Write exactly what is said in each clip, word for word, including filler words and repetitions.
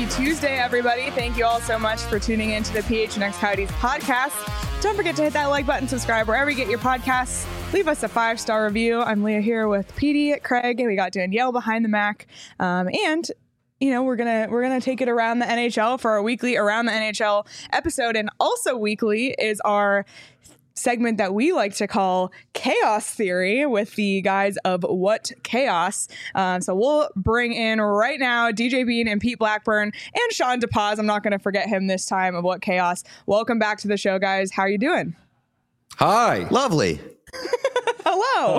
Happy Tuesday, everybody. Thank you all so much for tuning in to the P H N X Coyotes podcast. Don't forget to hit that like button, subscribe wherever you get your podcasts. Leave us a five-star review. I'm Leah here with Petey, Craig, and we got Danielle behind the Mac. Um, and you know, we're gonna we're gonna take it around the N H L for our weekly Around the N H L episode, and also weekly is our segment that we like to call Chaos Theory with the guys of What Chaos. Um, so we'll bring in right now D J Bean and Pete Blackburn and Sean DePaz. I'm not going to forget him this time, of What Chaos. Welcome back to the show, guys. How are you doing? Hi. Lovely. Hello.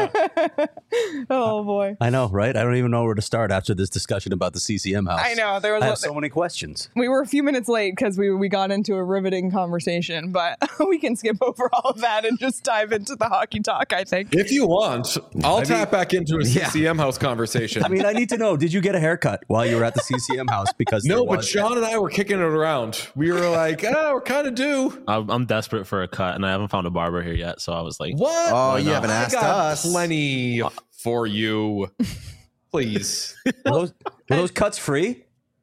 Oh boy. I know, right? I don't even know where to start after this discussion about the C C M house. I know there was. I a, have so many questions. We were a few minutes late because we we got into a riveting conversation, but we can skip over all of that and just dive into the hockey talk, I think. If you want, I'll I tap mean, back into a C C M yeah. house conversation. I mean, I need to know, did you get a haircut while you were at the C C M house? Because no, was- but Sean and I were kicking it around. We were like, oh, we're kind of due. I'm I'm desperate for a cut, and I haven't found a barber here yet. So I was like, What? Oh, Why you not? haven't I asked got us. plenty for you. Please. were those, were those cuts free?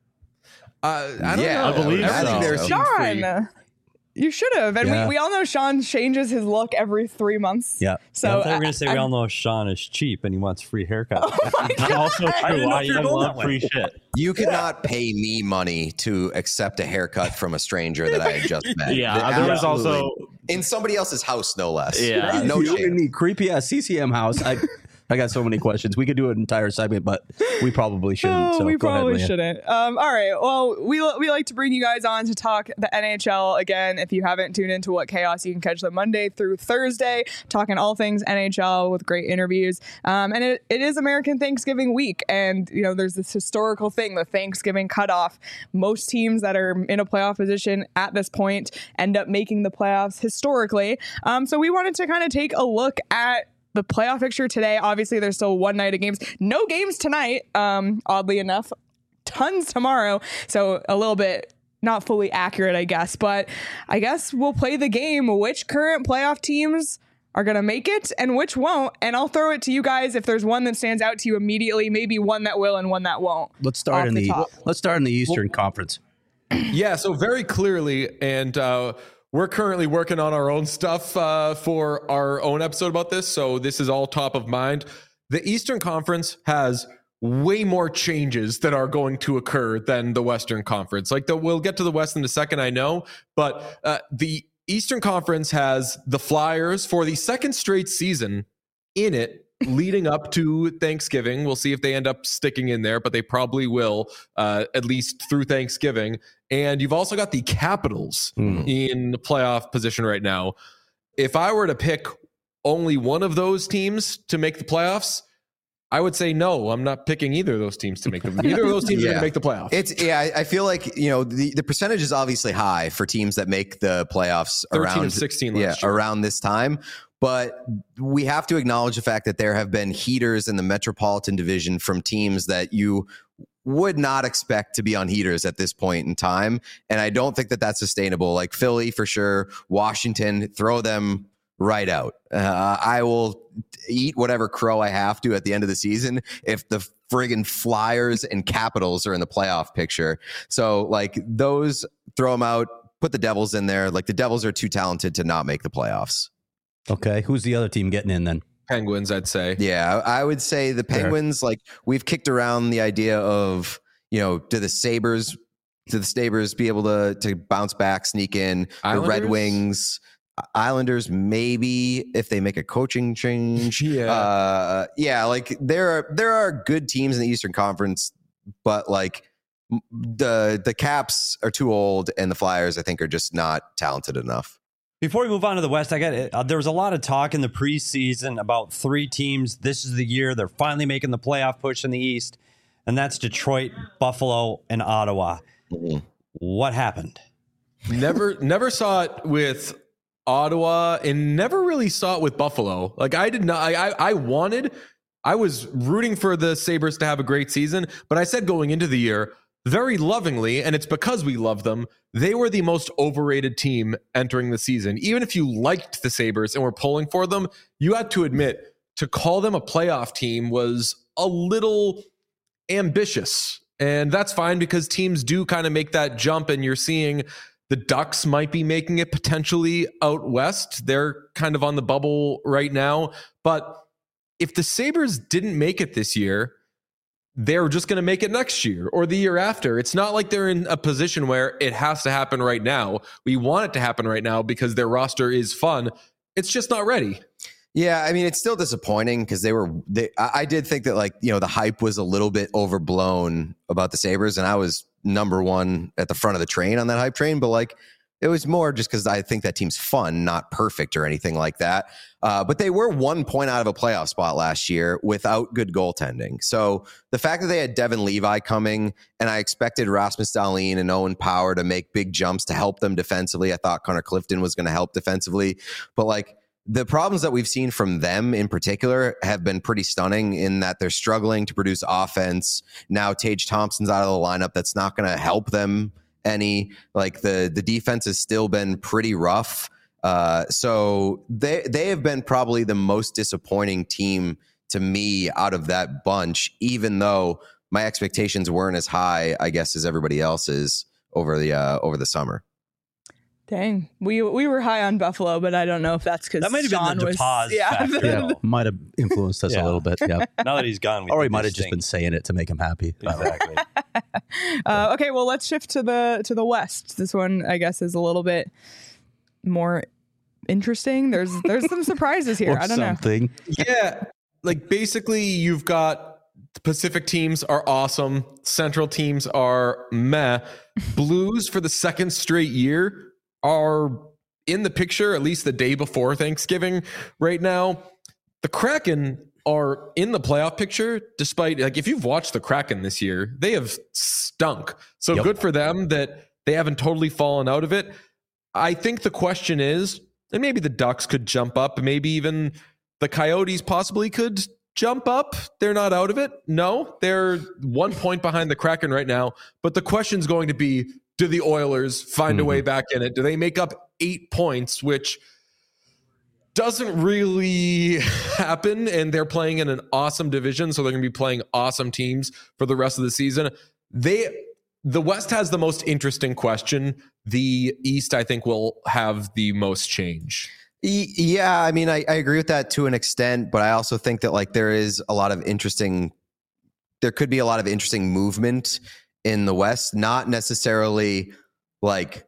Uh, I don't Yeah, know. I believe Everything so. there seemed free. Sean, you should have. And Yeah. we, we all know Sean changes his look every three months. Yeah. So I thought we were I- going to say we I'm- all know Sean is cheap and he wants free haircuts. That's also I didn't true. know I, if you were I going love that free way. shit. You cannot pay me money to accept a haircut from a stranger that I had just met. Yeah, there was Absolutely. also in somebody else's house, no less. Yeah. no you chance. and me, creepy ass C C M house. I I got so many questions. We could do an entire segment, but we probably shouldn't. Oh, so we go probably ahead, Leah. shouldn't. Um, all right. Well, we we like to bring you guys on to talk the N H L again. If you haven't tuned into What Chaos, you can catch them Monday through Thursday, talking all things N H L with great interviews. Um, and it, it is American Thanksgiving week, and you know there's this historical thing, the Thanksgiving cutoff. Most teams that are in a playoff position at this point end up making the playoffs historically. Um, so we wanted to kind of take a look at the playoff picture today. Obviously, there's still one night of games. No games tonight, um, oddly enough. Tons tomorrow. So a little bit not fully accurate, I guess. But I guess we'll play the game. Which current playoff teams are going to make it and which won't? And I'll throw it to you guys if there's one that stands out to you immediately, maybe one that will and one that won't. Let's start Off in the the, top. let's start in the Eastern Conference. Yeah, so very clearly, and uh, we're currently working on our own stuff uh, for our own episode about this, so this is all top of mind. The Eastern Conference has way more changes that are going to occur than the Western Conference. Like, the, we'll get to the West in a second, I know, but uh, the Eastern Conference has the Flyers for the second straight season in it, leading up to Thanksgiving. We'll see if they end up sticking in there, but they probably will, uh, at least through Thanksgiving. And you've also got the Capitals Mm. in the playoff position right now. If I were to pick only one of those teams to make the playoffs, I would say no, I'm not picking either of those teams to make them. Neither of those teams are Yeah. going to make the playoffs. It's yeah. I, I feel like you know the, the percentage is obviously high for teams that make the playoffs thirteen around and sixteen yeah last year. around this time. But we have to acknowledge the fact that there have been heaters in the Metropolitan Division from teams that you would not expect to be on heaters at this point in time. And I don't think that that's sustainable. Like Philly for sure, Washington, throw them right out. Uh, I will eat whatever crow I have to at the end of the season if the friggin' Flyers and Capitals are in the playoff picture. So like those, throw them out, put the Devils in there. Like the Devils are too talented to not make the playoffs. Okay, who's the other team getting in then? Penguins, I'd say. Yeah, I I would say the Penguins, like we've kicked around the idea of, you know, do the Sabres, do the Sabres be able to to bounce back, sneak in? The Red Islanders? Wings, Islanders, maybe if they make a coaching change. Yeah. Uh, yeah, like there are there are good teams in the Eastern Conference, but like m- the the Caps are too old and the Flyers, I think, are just not talented enough. Before we move on to the West, I got it. Uh, there was a lot of talk in the preseason about three teams. This is the year they're finally making the playoff push in the East, and that's Detroit, Buffalo, and Ottawa. Mhm. What happened? never never saw it with Ottawa and never really saw it with Buffalo. Like I did not, I, I, I wanted, I was rooting for the Sabres to have a great season, but I said going into the year very lovingly, and it's because we love them, they were the most overrated team entering the season. Even if you liked the Sabres and were pulling for them, you had to admit to call them a playoff team was a little ambitious. And that's fine because teams do kind of make that jump, and you're seeing the Ducks might be making it potentially out west. They're kind of on the bubble right now. But if the Sabres didn't make it this year, they're just going to make it next year or the year after. It's not like they're in a position where it has to happen right now. We want it to happen right now because their roster is fun. It's just not ready. Yeah, I mean, it's still disappointing because they were. They, I, I did think that, like, you know, the hype was a little bit overblown about the Sabres, and I was number one at the front of the train on that hype train. But like, it was more just because I think that team's fun, not perfect or anything like that. Uh, but they were one point out of a playoff spot last year without good goaltending. So the fact that they had Devin Levi coming, and I expected Rasmus Dahlin and Owen Power to make big jumps to help them defensively. I thought Connor Clifton was going to help defensively, but like. The problems that we've seen from them in particular have been pretty stunning in that they're struggling to produce offense. Now Tage Thompson's out of the lineup. That's not going to help them any. Like the, the defense has still been pretty rough. Uh, so they, they have been probably the most disappointing team to me out of that bunch, even though my expectations weren't as high, I guess, as everybody else's over the, uh, over the summer. Dang, we we were high on Buffalo, but I don't know if that's because That might have Sean been the was DePaz yeah. factor. Yeah, might have influenced us Yeah. a little bit. Yeah, Now that he's gone, we or he think might this have just been stinks. saying it to make him happy. Exactly. uh, okay, well, let's shift to the to the West. This one, I guess, is a little bit more interesting. There's there's some surprises here. Or I don't something. Yeah. Like basically you've got the Pacific teams are awesome. Central teams are meh. Blues for the second straight year are in the picture, at least the day before Thanksgiving right now. The Kraken are in the playoff picture, despite, like, if you've watched the Kraken this year, they have stunk. So Yep. good for them that they haven't totally fallen out of it. I think the question is, and maybe the Ducks could jump up, maybe even the Coyotes possibly could jump up. They're not out of it. No, they're one point behind the Kraken right now. But the question's going to be, do the Oilers find a way back in it? Do they make up eight points, which doesn't really happen, and they're playing in an awesome division, so they're going to be playing awesome teams for the rest of the season. They, the West has the most interesting question. The East, I think, will have the most change. Yeah, I mean, I, I agree with that to an extent, but I also think that like there is a lot of interesting, there could be a lot of interesting movement in the West, not necessarily like,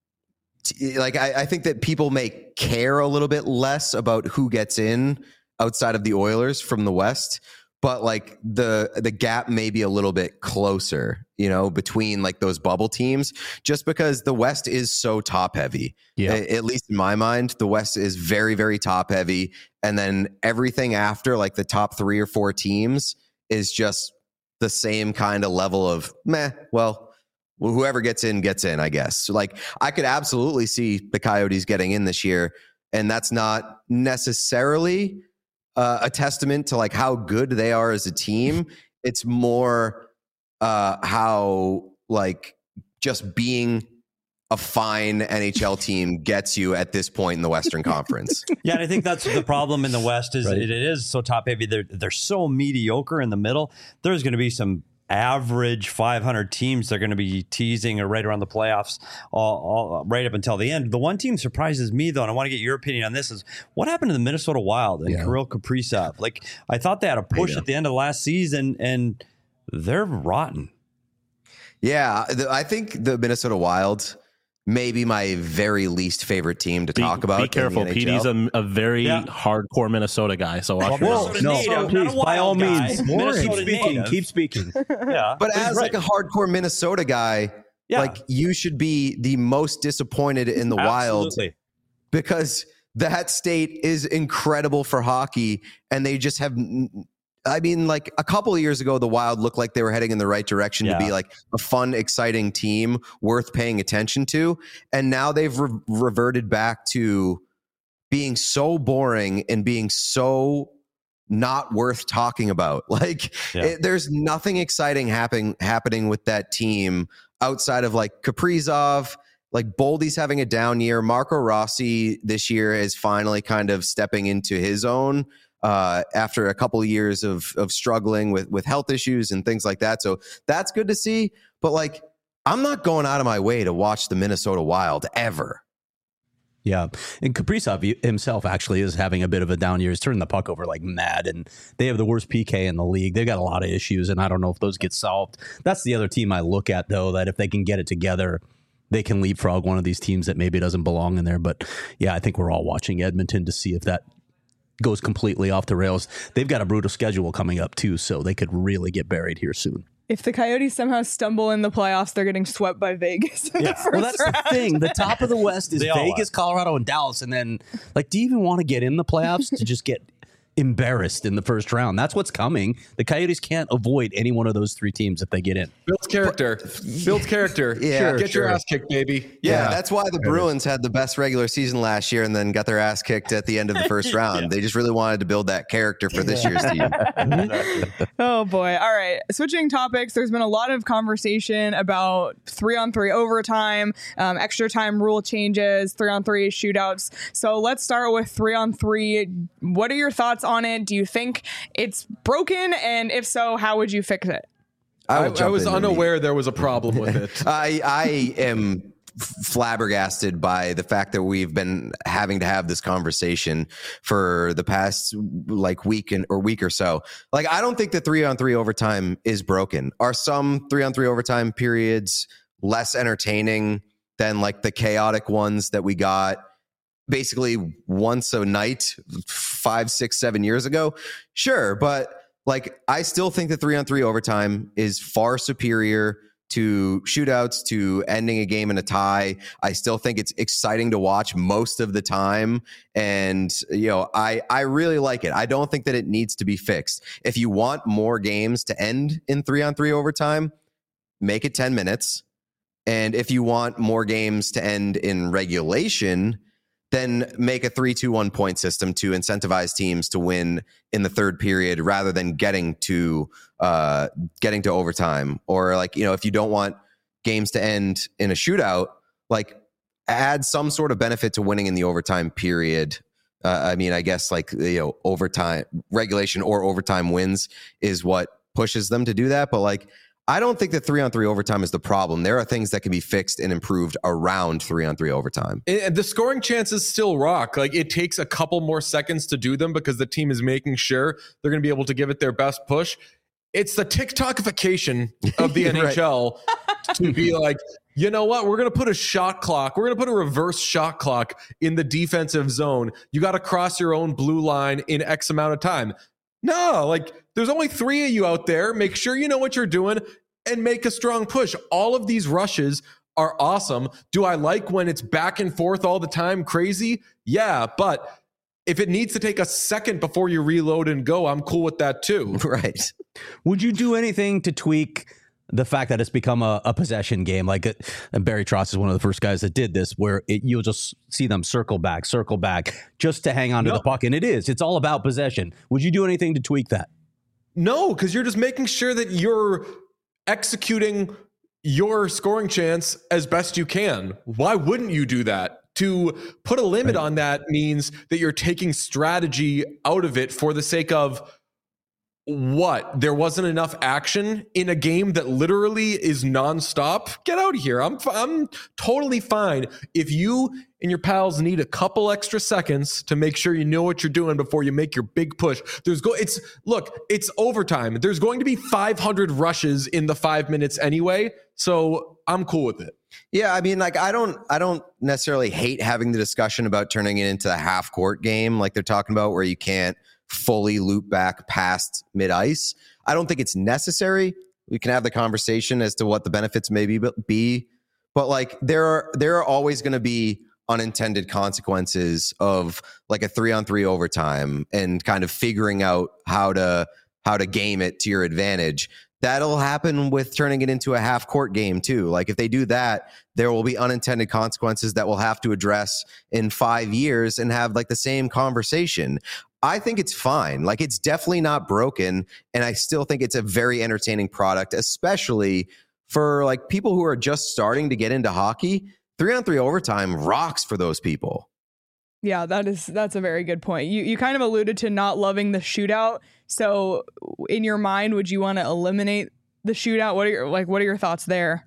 like I, I think that people may care a little bit less about who gets in outside of the Oilers from the West, but like the the gap may be a little bit closer, you know, between like those bubble teams, just because the West is so top heavy. Yeah. A- At least in my mind, the West is very, very top heavy. And then everything after like the top three or four teams is just the same kind of level of meh. Well, whoever gets in, gets in, I guess. So like I could absolutely see the Coyotes getting in this year. And that's not necessarily uh, a testament to like how good they are as a team. It's more uh, how like just being a fine N H L team gets you at this point in the Western Conference. Yeah, and I think that's the problem in the West is Right. it, it is so top heavy. They're they're so mediocre in the middle. There's going to be some average five hundred teams they're going to be teasing or right around the playoffs all, all right up until the end. The one team surprises me though, and I want to get your opinion on this, is what happened to the Minnesota Wild and Yeah. Kirill Kaprizov. Like I thought they had a push Yeah. at the end of last season and they're rotten. Yeah, the, I think the Minnesota Wild may be my very least favorite team to Be, talk about. be in the careful. N H Petey's L. a, a very Yeah. hardcore Minnesota guy. So watch Well, yourself. Minnesota No, native, not a please, by all wild guy. means, Minnesota keep speaking. native. Keep speaking. Yeah, But he's as like a right. hardcore Minnesota guy, Yeah. like you should be the most disappointed in the Wild Absolutely. because that state is incredible for hockey, and they just have. I mean, like a couple of years ago, the Wild looked like they were heading in the right direction Yeah. to be like a fun, exciting team worth paying attention to, and now they've re- reverted back to being so boring and being so not worth talking about. Like, Yeah. it, there's nothing exciting happening happening with that team outside of like Kaprizov. Like Boldy's having a down year. Marco Rossi this year is finally kind of stepping into his own. uh, after a couple of years of of struggling with with health issues and things like that. So that's good to see. But like, I'm not going out of my way to watch the Minnesota Wild ever. Yeah, and Kaprizov himself actually is having a bit of a down year. He's turning the puck over like mad, and they have the worst P K in the league. They've got a lot of issues, and I don't know if those get solved. That's the other team I look at, though, that if they can get it together, they can leapfrog one of these teams that maybe doesn't belong in there. But yeah, I think we're all watching Edmonton to see if that goes completely off the rails. They've got a brutal schedule coming up, too, so they could really get buried here soon. If the Coyotes somehow stumble in the playoffs, they're getting swept by Vegas in Yeah. the first Well, that's round. the thing. The top of the West is They all Vegas, Colorado, and Dallas. And then, like, do you even want to get in the playoffs to just get embarrassed in the first round? That's what's coming. The Coyotes can't avoid any one of those three teams if they get in. Builds character. Builds character. Yeah, Sure, Get sure. your ass kicked, baby. Yeah, that's why the Bruins had the best regular season last year and then got their ass kicked at the end of the first round. They just really wanted to build that character for this year's team. Oh boy. All right. Switching topics, there's been a lot of conversation about three on three overtime, um, extra time rule changes, three on three shootouts. So let's start with three on three. What are your thoughts on it? Do you think it's broken? And if so, how would you fix it? I, will I jump was in and unaware there was a problem with it. I I am flabbergasted by the fact that we've been having to have this conversation for the past like week and or week or so. Like, I don't think the three on three overtime is broken. Are some three on three overtime periods less entertaining than like the chaotic ones that we got basically once a night five, six, seven years ago? Sure. But like, I still think the three on three overtime is far superior to shootouts, to ending a game in a tie. I still think it's exciting to watch most of the time. And, you know, I, I really like it. I don't think that it needs to be fixed. If you want more games to end in three on three overtime, make it ten minutes. And if you want more games to end in regulation, then make a three two one point system to incentivize teams to win in the third period rather than getting to uh, getting to overtime. Or like, you know, if you don't want games to end in a shootout, like add some sort of benefit to winning in the overtime period. Uh, I mean, I guess like, you know, overtime regulation or overtime wins is what pushes them to do that. But like, I don't think that three on three overtime is the problem. There are things that can be fixed and improved around three on three overtime. And the scoring chances still rock. Like, it takes a couple more seconds to do them because the team is making sure they're going to be able to give it their best push. It's the TikTokification of the N H L to be like, you know what? We're going to put a shot clock. We're going to put a reverse shot clock in the defensive zone. You got to cross your own blue line in X amount of time. No, like, there's only three of you out there. Make sure you know what you're doing and make a strong push. All of these rushes are awesome. Do I like when it's back and forth all the time? Crazy? Yeah, but if it needs to take a second before you reload and go, I'm cool with that too. Right. Would you do anything to tweak the fact that it's become a, a possession game? Like, it, and Barry Trotz is one of the first guys that did this, where it, you'll just see them circle back, circle back, just to hang on to No. the puck. And it is. It's all about possession. Would you do anything to tweak that? No, because you're just making sure that you're executing your scoring chance as best you can. Why wouldn't you do that? To put a limit on that means that you're taking strategy out of it for the sake of what? There wasn't enough action in a game that literally is nonstop? Get out of here. I'm I'm totally fine if you and your pals need a couple extra seconds to make sure you know what you're doing before you make your big push. There's go it's look, it's overtime. There's going to be five hundred rushes in the five minutes anyway, so I'm cool with it. Yeah, I mean, like, I don't, I don't necessarily hate having the discussion about turning it into a half court game, like they're talking about, where you can't fully loop back past mid ice. I don't think it's necessary. We can have the conversation as to what the benefits may be, but be, but like there are there are always going to be unintended consequences of like a three on three overtime and kind of figuring out how to how to game it to your advantage. That'll happen with turning it into a half court game too. Like, if they do that, there will be unintended consequences that we'll have to address in five years and have like the same conversation. I think it's fine. Like, it's definitely not broken. And I still think it's a very entertaining product, especially for like people who are just starting to get into hockey. Three on three overtime rocks for those people. Yeah, that is that's a very good point. You you kind of alluded to not loving the shootout. So in your mind, would you want to eliminate the shootout? What are your like what are your thoughts there?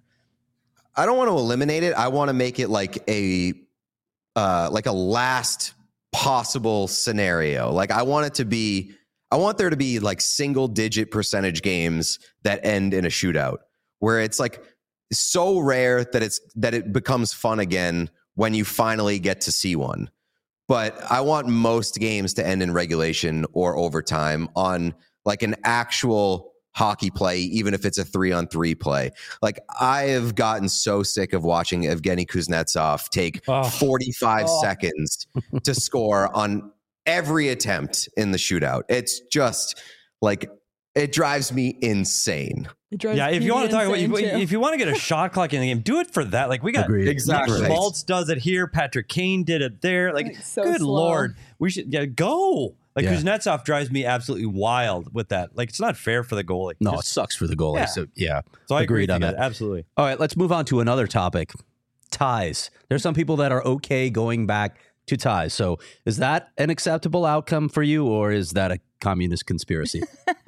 I don't want to eliminate it. I want to make it like a uh, like a last possible scenario. Like I want it to be, I want there to be like single digit percentage games that end in a shootout where it's like so rare that it's that it becomes fun again when you finally get to see one. But I want most games to end in regulation or overtime on like an actual hockey play, even if it's a three on three play. Like I have gotten so sick of watching Evgeny Kuznetsov take Oh. forty-five Oh. seconds to score on every attempt in the shootout. It's just like, it drives me insane. It drives Yeah, if me you want to talk about insane, if, too. if you want to get a shot clock in the game, do it for that. Like we got Agreed. Exactly. Nick Schmaltz does it here. Patrick Kane did it there. Like, Like, so good slow. lord, we should yeah go. Like Yeah. Kuznetsov drives me absolutely wild with that. Like it's not fair for the goalie. No, it Just- sucks for the goalie. Yeah. So yeah, so I agree agreed with on you that. guys. Absolutely. All right, let's move on to another topic. Ties. There's some people that are okay going back to ties. So is that an acceptable outcome for you, or is that a communist conspiracy?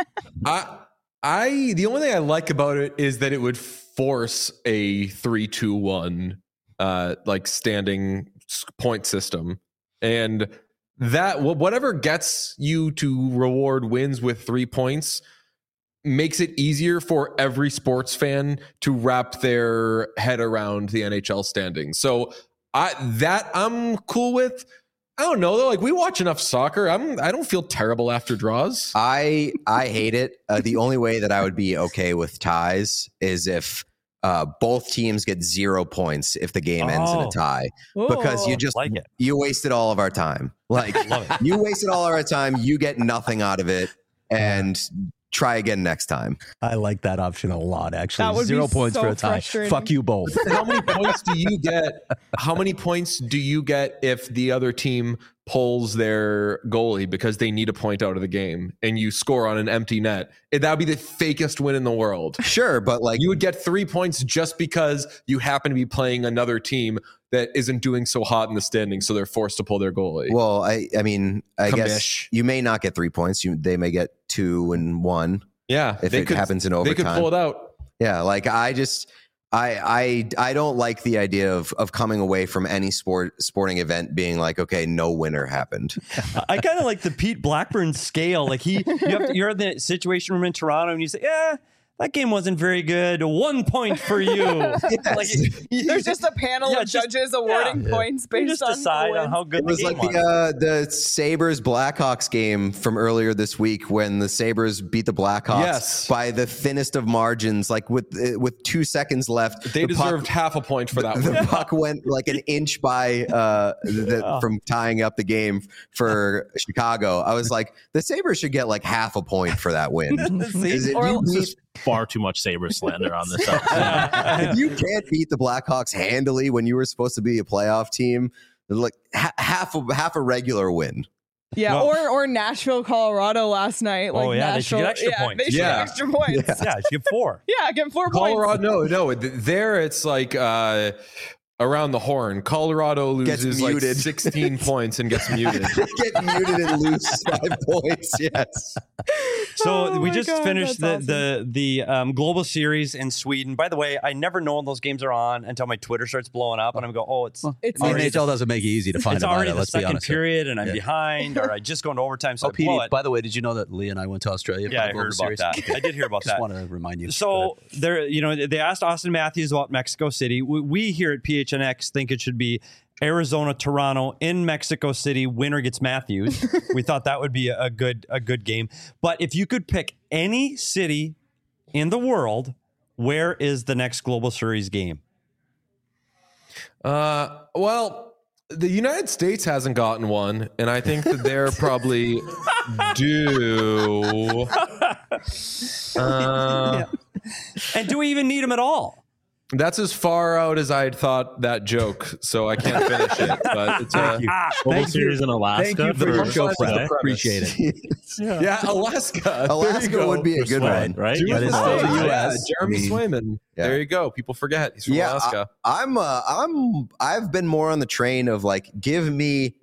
I, I, the only thing I like about it is that it would force a three, two, one, uh, like standing s- point system, and that wh- whatever gets you to reward wins with three points makes it easier for every sports fan to wrap their head around the N H L standings. So I that I'm cool with. I don't know though. Like we watch enough soccer. I'm. I don't feel terrible after draws. I I hate it. Uh, the only way that I would be okay with ties is if uh, both teams get zero points if the game ends in Oh. a tie, because you Oh. just Like it. you wasted all of our time. Like Love it. you wasted all of our time. You get nothing out of it, and try again next time. I like that option a lot, actually. That would be Zero points so for a tie. frustrating. Fuck you both. How many points do you get? How many points do you get if the other team pulls their goalie because they need a point out of the game and you score on an empty net? That would be the fakest win in the world. Sure, but like You would get three points just because you happen to be playing another team that isn't doing so hot in the standings, so they're forced to pull their goalie. well, I I mean, I guess Commish. you may not get three points. You they may get two and one yeah, if they it could, happens in they could overtime. pull it out. Yeah, like I just I I I don't like the idea of of coming away from any sport sporting event being like, okay, no winner happened. I kind of like the Pete Blackburn scale. Like he, you have to, you're in the situation room in Toronto, and you say, "Yeah, that game wasn't very good. One point for you." Like, you- There's just a panel Yeah, of just- judges awarding yeah. points you based just on decide wins. on how good It was the game like the uh, the Sabres Blackhawks game from earlier this week when the Sabres beat the Blackhawks Yes. by the thinnest of margins, like with uh, with two seconds left. They the puck- deserved half a point for that the one. puck went like an inch by uh, the, Yeah. from tying up the game for Chicago. I was like, the Sabres should get like half a point for that win. See? Is it- Or- you This beat- is far too much Sabre slander on this episode. if you can't beat the Blackhawks handily when you were supposed to be a playoff team, like ha- half a, half a regular win. Yeah, Well- or or Nashville, Colorado last night. Like Oh, yeah, they should Nashville, get extra yeah, points. They should Yeah. get extra points. Yeah, yeah, you get four. get four Colorado, points. no, no. th- There, it's like uh, around the horn. Colorado Gets loses like muted. sixteen points and gets muted. Get muted and lose five points. Yes. So Oh we my just God, finished the that's the the um, global series in Sweden. By the way, I never know when those games are on until my Twitter starts blowing up, and I'm go, oh, it's It's The already N H L doesn't make it easy to find it's about already it. the Let's be second honest. here. period, and I'm Yeah. behind, or I just go into overtime, so Oh, I blow Petey, it. by the way, did you know that Lee and I went to Australia? Yeah, I for the heard Global about Series? that. I did hear about Just that. want to remind you. Go So there, you know, they asked Austin Matthews about Mexico City. We, we here at P H N X think it should be Arizona, Toronto in Mexico City. Winner gets Matthews. We thought that would be a, a good a good game. But if you could pick any city in the world, where is the next Global Series game? Uh, well, the United States hasn't gotten one, and I think that they're probably due. Uh, And do we even need them at all? That's as far out as I'd thought that joke, so I can't finish it. But it's a, Global Thank you. Series in Alaska. Thank you for your for- show, for Fred. the premise. Appreciate it. yeah, Alaska. There you Alaska go. would be a good Swag, one. right? Dude, That is right. still the U Yeah, S. Jeremy I mean, Swayman. yeah. There you go. People forget he's from Yeah, Alaska. I'm uh, I'm I've been more on the train of like, give me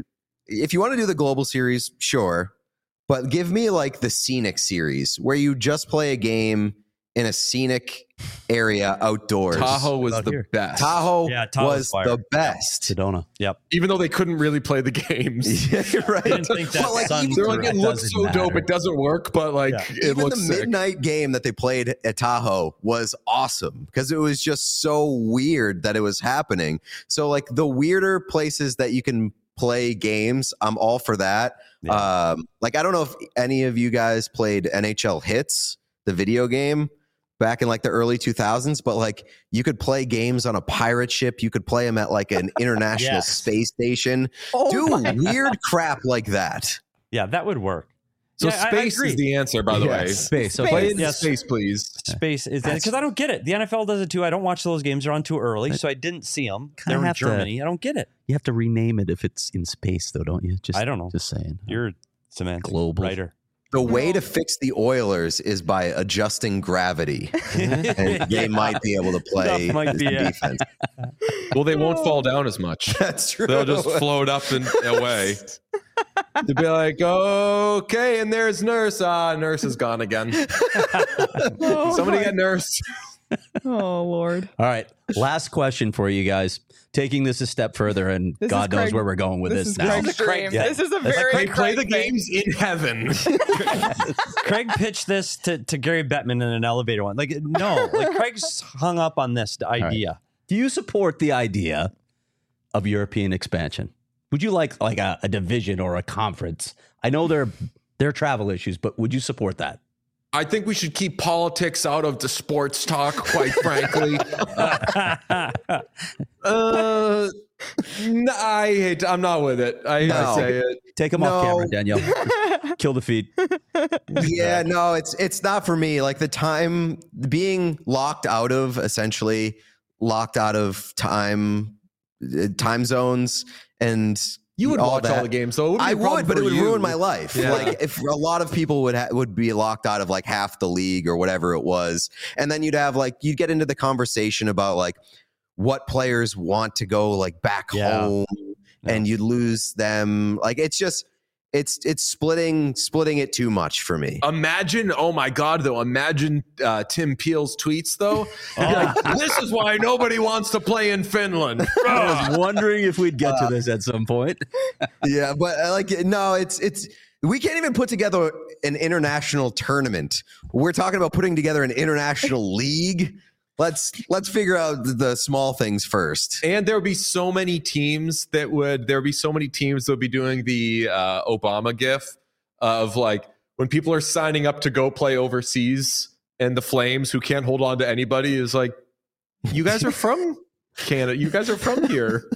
if you want to do the global series, sure. But give me like the scenic series where you just play a game in a scenic area outdoors. Tahoe was Out the here. best. Tahoe Yeah, Tahoe's was fire. the best. Sedona. Yep. Even though they couldn't really play the games. Yeah, you're right. Didn't think that But, like, sun even- They're like, it It looks doesn't so dope. matter. It doesn't work, but like Yeah. it Even looks the sick. midnight game that they played at Tahoe was awesome because it was just so weird that it was happening. So like the weirder places that you can play games, I'm all for that. Yeah. Um, like I don't know if any of you guys played N H L Hits, the video game, back in like the early two thousands, but like you could play games on a pirate ship. You could play them at like an international Yes. space station. Oh Do my weird crap like that. Yeah, that would work. So Yeah, I- I space agree. is the answer, by the way. Yes. Space. Space. Play in Yes. space, please. Space is because I don't get it. The N F L does it too. I don't watch those games; they're on too early, so I didn't see them. Kinda They're in have to- Germany. I don't get it. You have to rename it if it's in space, though, don't you? Just I don't know. Just saying. You're semantic Global. writer. The way to fix the Oilers is by adjusting gravity. And they might be able to play That might be some it. defense. Well, they won't fall down as much. That's true. They'll just float up and away. To be like, okay, and there's Nurse. Ah, Nurse is gone again. Oh, Somebody my- get Nurse. Oh Lord. All right. Last question for you guys. Taking this a step further, and This God is knows Craig- where we're going with This this, is now. Craig's Craig- dream. yeah. This is a That's very They play Craig the thing. games in heaven. Craig pitched this to, to Gary Bettman in an elevator one. Like, no, like Craig's hung up on this idea. Do you support the idea of European expansion? Would you like like a, a division or a conference? I know there there are travel issues, but would you support that? I think we should keep politics out of the sports talk, quite frankly. Uh, no, I hate. I'm not with it. I hate to No. say it. Take them off No. camera, Danielle. Kill the feed. Yeah, no, it's it's not for me. Like the time being locked out of essentially locked out of time uh, time zones and You would all watch that. all the games, so it wouldn't be I a problem would, but for it would you. ruin my life. Yeah. Like if a lot of people would ha- would be locked out of like half the league or whatever it was, and then you'd have like you'd get into the conversation about like what players want to go like back Yeah. home, and you'd lose them. Like it's just it's it's splitting splitting it too much for me. Imagine, oh my God, though. Imagine uh, Tim Peel's tweets, though. He'd be like, this is why nobody wants to play in Finland. I was wondering if we'd get to this at some point. Yeah, but uh, like no, it's it's we can't even put together an international tournament. We're talking about putting together an international league. Let's let's figure out the small things first. And there would be so many teams that would, there would be so many teams that would be doing the uh, Obama gif of like when people are signing up to go play overseas and the Flames, who can't hold on to anybody, is like, you guys are from Canada. You guys are from here.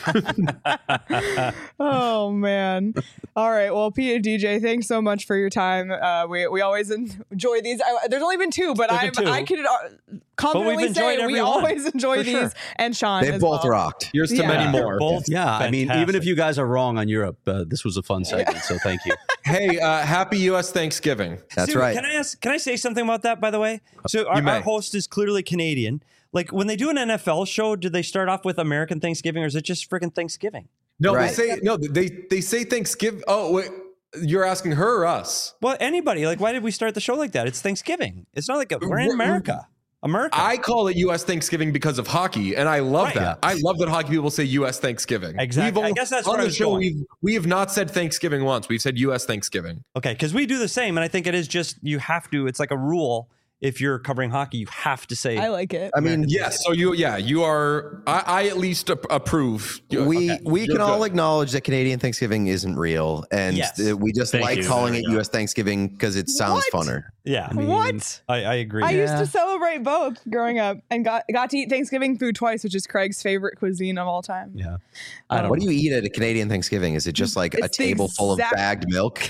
Oh man. All right. Well, Pete and D J, thanks so much for your time. Uh, we we always enjoy these. I, there's only been two, but There's I'm been two. I could uh, confidently enjoyed say every we one, always enjoy for these. sure. And Sean, They as both well. rocked. Here's to Yeah. many They're more. both Yeah, I mean, even fantastic. if you guys are wrong on Europe, uh, this was a fun segment, so thank you. Hey, uh, happy U S Thanksgiving. That's Stu, right. Can I ask? Can I say something about that? By the way, so our, may. our host is clearly Canadian. Like when they do an N F L show, do they start off with American Thanksgiving, or is it just freaking Thanksgiving? No, Right. they say no. They they say Thanksgiving. Oh wait, you're asking her or us? Well, anybody. Like, why did we start the show like that? It's Thanksgiving. It's not like a, we're in America. America. I call it U S Thanksgiving because of hockey, and I love Right. that. I love that hockey people say U S Thanksgiving. Exactly. We've I all- guess that's on where I the was show. going. We've we have not said Thanksgiving once. We've said U S Thanksgiving. Okay, because we do the same, and I think it is just you have to. It's like a rule. If you're covering hockey, you have to say. I like it. I mean, Yes. So you, yeah, you are. I, I at least ap- approve. You- we okay, we you're can all good. acknowledge that Canadian Thanksgiving isn't real, and Yes. uh, we just Thank like you. calling There it we go. U S Thanksgiving because it sounds What? funner. yeah, What? I, I agree. I used Yeah. to celebrate both growing up and got got to eat Thanksgiving food twice, which is Craig's favorite cuisine of all time. Yeah. I don't What know. do you eat at a Canadian Thanksgiving? Is it just like a It's the table full of exact- bagged milk?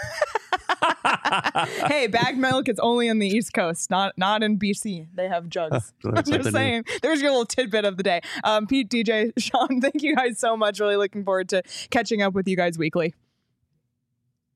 Hey, bagged milk is only on the East Coast, not not in B C. They have jugs. I'm Learned just something new. saying. There's your little tidbit of the day. Um, Pete, D J, Sean, thank you guys so much. Really looking forward to catching up with you guys weekly.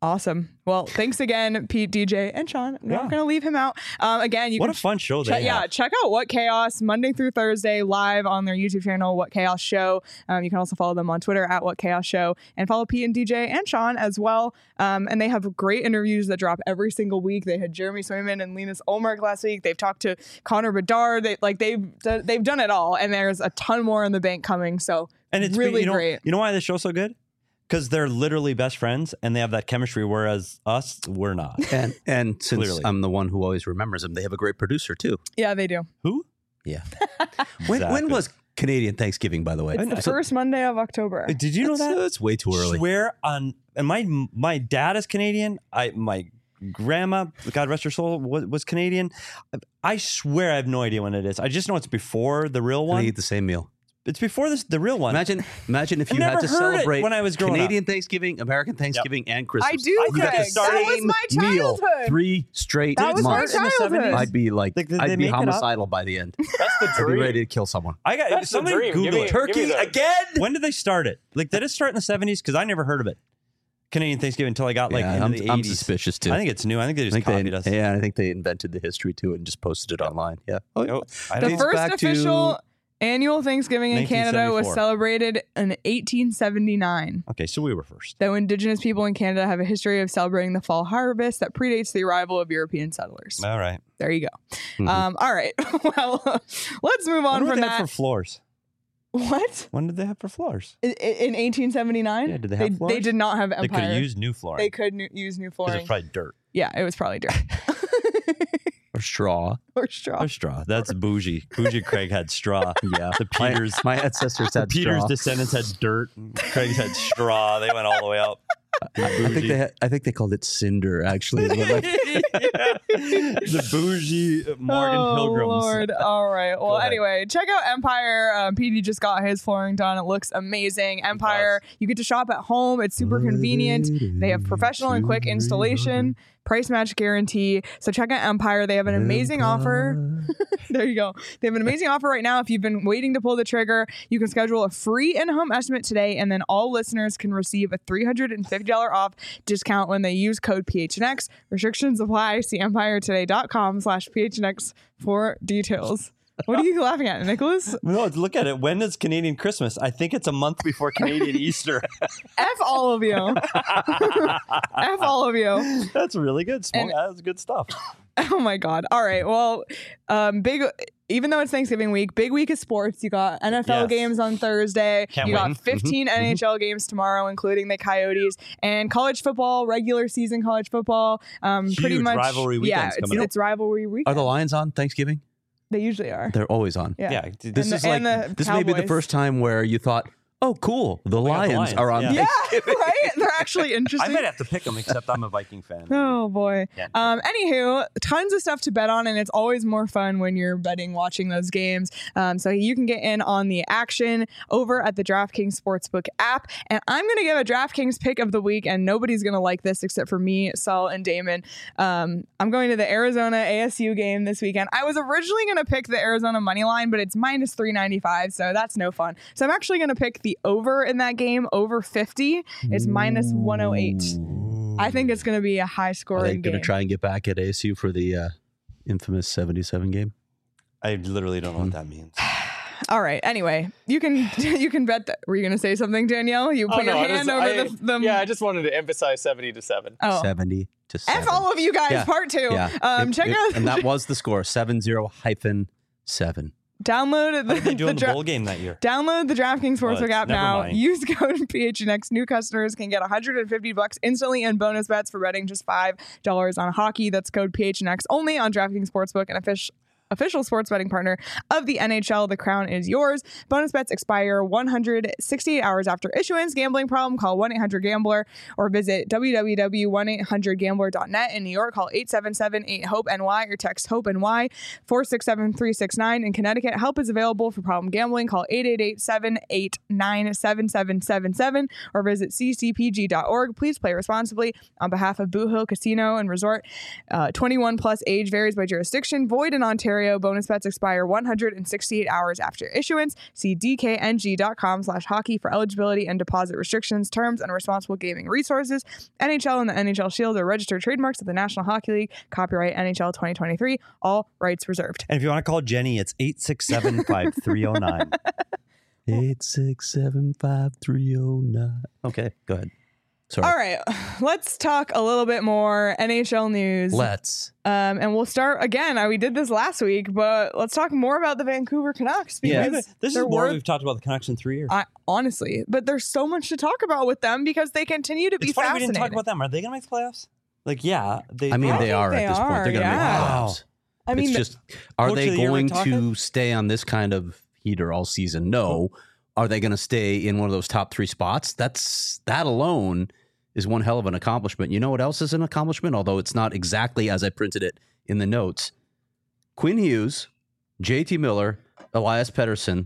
Awesome. Well, thanks again, Pete, D J, and Sean. I'm Yeah. not going to leave him out. Um, again, you What can a fun show check, they yeah, have. check out What Chaos Monday through Thursday live on their YouTube channel, What Chaos Show. Um, you can also follow them on Twitter at What Chaos Show and follow Pete and D J and Sean as well. Um, and they have great interviews that drop every single week. They had Jeremy Swayman and Linus Ulmark last week. They've talked to Connor Bedard. They like they've they've done it all, and there's a ton more in the bank coming. So And it's really you know, great. You know why this show's so good? Because they're literally best friends and they have that chemistry, whereas us, we're not. And and since Clearly. I'm the one who always remembers them, they have a great producer too. Yeah, they do. Who? Yeah. when when Exactly. was Canadian Thanksgiving, by the way? It's the So- first Monday of October. Did you know That's- that? That's way too early. Swear on, and my my dad is Canadian. I my grandma, God rest her soul, was, was Canadian. I swear I have no idea when it is. I just know it's before the real And one. they eat the same meal. It's before this the real one. Imagine, imagine if I've you had never to heard it celebrate when I was growing up. Canadian Thanksgiving, American Thanksgiving, and Christmas. I do, I got Craig. to start- That was Same my meal, childhood. three straight That was my months. in the childhood. seventies? I'd be like, Like, did they I'd be make it up? homicidal by the end. That's the I'd be dream. ready to kill someone. I got That's the somebody dream. Google Give me- it. give me the- again. When did they start it? Like, did it start in the seventies? Because I never heard of it. Canadian Thanksgiving until I got like Yeah, into I'm, the I'm eighties. suspicious too. I think it's new. I think they I just think copied they, us. yeah, I think they invented the history to it and just posted it online. Yeah. Oh, Oh, I The don't- first back to- official annual Thanksgiving in Canada was nineteen seventy-four. celebrated in eighteen seventy-nine. Okay, so we were first. Though Indigenous people in Canada have a history of celebrating the fall harvest that predates the arrival of European settlers. All right. There you go. Mhm. Um, all right. Well, let's move on What from did they have that. for floors? What? When did they have for floors? In, in eighteen seventy-nine? Yeah, did they have they, floors? did not have They could Empire. have used new flooring. They could nu- use new because flooring. it's probably dirt Yeah, it was probably dirt. or straw. or straw. or straw. That's bougie. Bougie Craig had straw. Yeah. The My, Peters, my ancestors the had Peters straw. descendants had dirt. Craig's had straw. They went all the way up. I think they had, I think they called it cinder actually. But like- Yeah. The bougie Morgan oh, Pilgrims. Lord. All right. Well, ahead. anyway, check out Empire. Um, P D just got his flooring done. It looks amazing. Empire, you get to shop at home. It's super convenient. They have professional and quick installation, price match guarantee. So check out Empire. They have an amazing offer. There you go. They have an amazing offer right now. If you've been waiting to pull the trigger, you can schedule a free in-home estimate today, and then all listeners can receive a three hundred fifty dollars off discount when they use code P H N X. Restrictions apply. See empiretoday.com slash PHNX for details. What are you laughing at, Nicholas? No, look at it. When is Canadian Christmas? I think it's a month before Canadian Easter. F all of you. F all of you. That's really good. Small, And- that's good stuff. Oh my God. All right. Well, um, big, even though it's Thanksgiving week, big week of sports. You got N F L Yes. games on Thursday. Can't you wait. got fifteen N H L games tomorrow, including the Coyotes, and college football, regular season college football. Um, pretty Huge much rivalry Yeah, weekends it's, coming up. it's rivalry week. Are the Lions on Thanksgiving? They usually are. They're always on. Yeah. Yeah. This And is the- like and the this may be the Cowboys. first time where you thought, "Oh, cool, the, got the Lions, Lions, are on." yeah. Yeah, Thanksgiving." right? They're actually I interesting. might have to pick them, except I'm a Viking fan. Oh boy. Yeah. Um. Anywho, tons of stuff to bet on, and it's always more fun when you're betting watching those games. Um. So you can get in on the action over at the DraftKings Sportsbook app, and I'm gonna give a DraftKings pick of the week, and nobody's gonna like this except for me, Saul, and Damon. Um. I'm going to the Arizona A S U game this weekend. I was originally gonna pick the Arizona money line, but it's minus three ninety-five, so that's no fun. So I'm actually gonna pick the over in that game, over fifty. It's minus one oh eight. I think it's going to be a high Are scoring they game. going to try and get back at A S U for the uh, infamous seventy-seven game? I literally don't know what that means. All right. Anyway, you can you can bet that. Were you going to say something, Danielle? You Oh, put no, your I hand just- over I- the, the. Yeah, I just wanted to emphasize seventy to seven. Oh. seventy to seven. F all of you guys. Yeah. Part two. Yeah. Um. It- check it- out. and that was the score: seven zero hyphen seven. Download How the, did they do the in the dra- bowl game that year? Download the DraftKings Oh, Sportsbook it's- app never now. mind. Use code P H N X. New customers can get one hundred fifty bucks instantly in bonus bets for betting just five dollars on hockey. That's code P H N X only on DraftKings Sportsbook, an official official sports betting partner of the N H L. The crown is yours. Bonus bets expire one hundred sixty-eight hours after issuance. Gambling problem? Call one eight hundred gambler or visit w w w dot one eight hundred gambler dot net. In New York, call eight seven seven eight hope N Y or text HOPE-NY four six seven three six nine. In Connecticut, help is available for problem gambling. Call eight eight eight seven eight nine seven seven seven seven or visit c c p g dot org. Please play responsibly on behalf of Boo Hill Casino and Resort. Uh, twenty-one plus age varies by jurisdiction. Void in Ontario. Ontario. Bonus bets expire one hundred sixty-eight hours after issuance. See dkng.com slash hockey for eligibility and deposit restrictions, terms, and responsible gaming resources. N H L and the N H L Shield are registered trademarks of the National Hockey League. Copyright N H L twenty twenty-three. All rights reserved. And if you want to call Jenny, it's eight six seven, five three zero nine. eight six seven five three zero nine. Okay, go ahead. Sorry. All right, let's talk a little bit more N H L news. Let's. Um, and we'll start again. uh, We did this last week, but let's talk more about the Vancouver Canucks. Yeah, Because this is they're more worth- we've talked about the Canucks in three years. I, honestly, but there's so much to talk about with them because they continue to be It's funny we fascinating. didn't talk about them. Are they going to make the playoffs? Like, yeah. They, I mean, I they think are they at this point. are, They're going to yeah. make the Wow. playoffs. I mean, it's just, are Coach they of the year, going Rick to Tocchet? stay on this kind of heater all season? No. Are they going to stay in one of those top three spots? That's that alone is one hell of an accomplishment. You know what else is an accomplishment? Although it's not exactly as I printed it in the notes. Quinn Hughes, J T Miller, Elias Pettersson,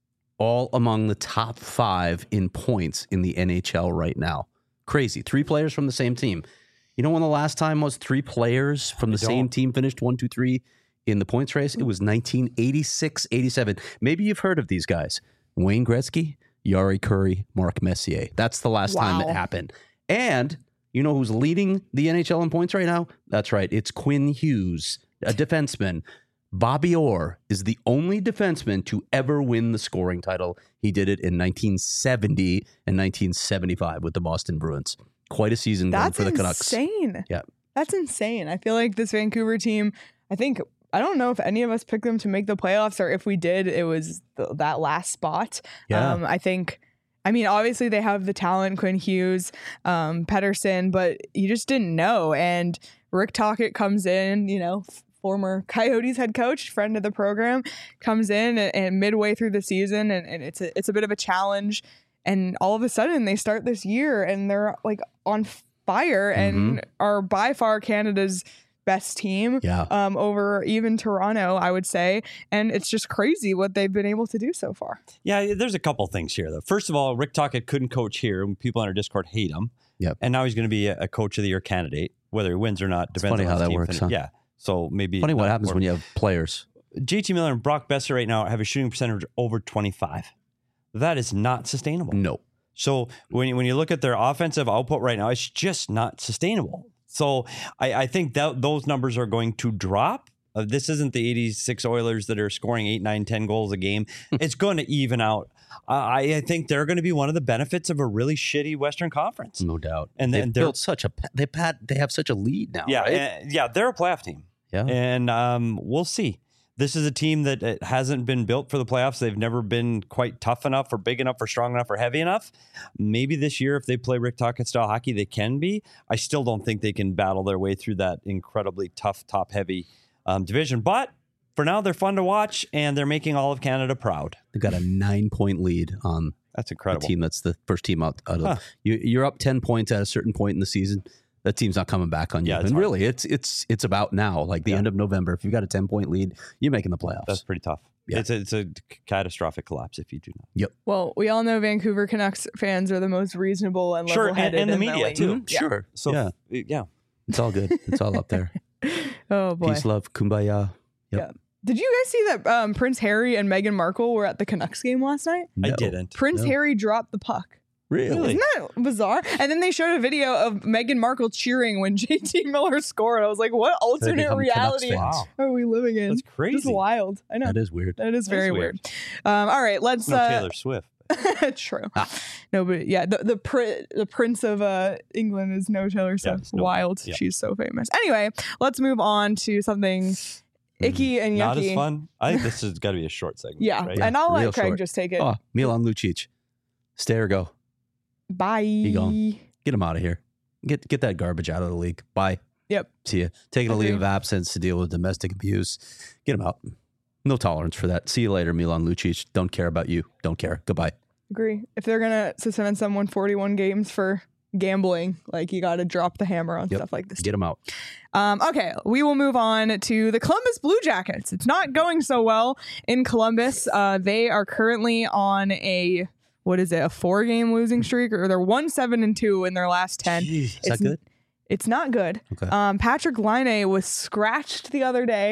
all among the top five in points in the N H L right now. Crazy. Three players from the same team. You know when the last time was three players from the I same don't. team finished one, two, three in the points race? It was nineteen eighty-six, eighty-seven. Maybe you've heard of these guys. Wayne Gretzky, Yari Curry, Mark Messier. That's the last time Wow. it happened. And you know who's leading the N H L in points right now? That's right. It's Quinn Hughes, a defenseman. Bobby Orr is the only defenseman to ever win the scoring title. He did it in nineteen seventy and nineteen seventy-five with the Boston Bruins. Quite a season going that's for the Canucks. insane. Yeah. That's insane. I feel like this Vancouver team, I think, I don't know if any of us picked them to make the playoffs, or if we did, it was the, that last spot. Yeah. Um, I think, I mean, obviously they have the talent, Quinn Hughes, um, Pettersson, but you just didn't know. And Rick Tocchet comes in, you know, f- former Coyotes head coach, friend of the program, comes in and, and midway through the season, and, and it's a, it's a bit of a challenge. And all of a sudden they start this year and they're like on fire and are by far Canada's best team. Yeah. Um, over even Toronto, I would say. And it's just crazy what they've been able to do so far. Yeah, there's a couple things here, though. First of all, Rick Tocchet couldn't coach here, and people on our Discord hate him. Yep. And now he's going to be a, a coach of the year candidate, whether he wins or not. It's Depends funny on how his that team works, finish. huh? Yeah. So maybe Funny what not happens more- when you have players. J T Miller and Brock Besser right now have a shooting percentage over twenty-five. That is not sustainable. No. So when you, when you look at their offensive output right now, it's just not sustainable. So I, I think that those numbers are going to drop. Uh, this isn't the eighty-six Oilers that are scoring eight, nine, ten goals a game. It's going to even out. Uh, I, I think they're going to be one of the benefits of a really shitty Western Conference. No doubt. And they've then they're- built such a they pat they have such a lead now. Yeah, right? and- yeah, they're a playoff team. yeah. And um, we'll see. This is a team that uh, hasn't been built for the playoffs. They've never been quite tough enough or big enough or strong enough or heavy enough. Maybe this year, if they play Rick Tocchet style hockey, they can be. I still don't think they can battle their way through that incredibly tough, top heavy um, division. But for now, they're fun to watch, and they're making all of Canada proud. They've got a nine point lead on That's the incredible. team that's the first team out. out of, Huh. you, you're up ten points at a certain point in the season. That team's not coming back on you. Yeah, it's and hard. really, it's it's it's about now, like the Yeah. end of November. If you've got a ten point lead, you're making the playoffs. That's pretty tough. Yeah. It's, a, it's a catastrophic collapse if you do not. Well, we all know Vancouver Canucks fans are the most reasonable and Sure, and- level-headed and the in media, league. too. Yeah. Sure. So yeah, yeah. it's all good. It's all up there. Oh boy. Peace, love, kumbaya. Yep. Did you guys see that um, Prince Harry and Meghan Markle were at the Canucks game last night? I No. didn't. Prince No. Harry dropped the puck. Really? Isn't that bizarre? And then they showed a video of Meghan Markle cheering when J T Miller scored. I was like, what They alternate become Canucks reality fans. Wow. are we living in? That's crazy. Just wild. I know. That is weird. That is very weird. weird. Um, all right, let's. No uh, Taylor Swift. True. Ah. No, but yeah, the the, pri- the Prince of uh, England is no Taylor Swift. it's no- Wild. yeah. She's so famous. Anyway, let's move on to something icky and yucky. Not as fun. I think this has got to be a short segment. Yeah, Right? and I'll real let Craig short. just take it. Oh, Milan Lucic. Stay or go. Bye. gone. Get him out of here. Get get that garbage out of the league. Bye. Yep. See ya. Taking a leave Agreed. of absence to deal with domestic abuse. Get him out. No tolerance for that. See you later, Milan Lucic. Don't care about you. Don't care. Goodbye. Agree. If they're gonna suspend someone forty-one games for gambling, like you got to drop the hammer on Yep. stuff like this. Get him out. Um, okay, we will move on to the Columbus Blue Jackets. It's not going so well in Columbus. Uh, they are currently on a what is it? A four-game losing streak, or they're one seven and two in their last ten. Jeez, is It's that good? It's not good. Okay. Um, Patrick Laine was scratched the other day.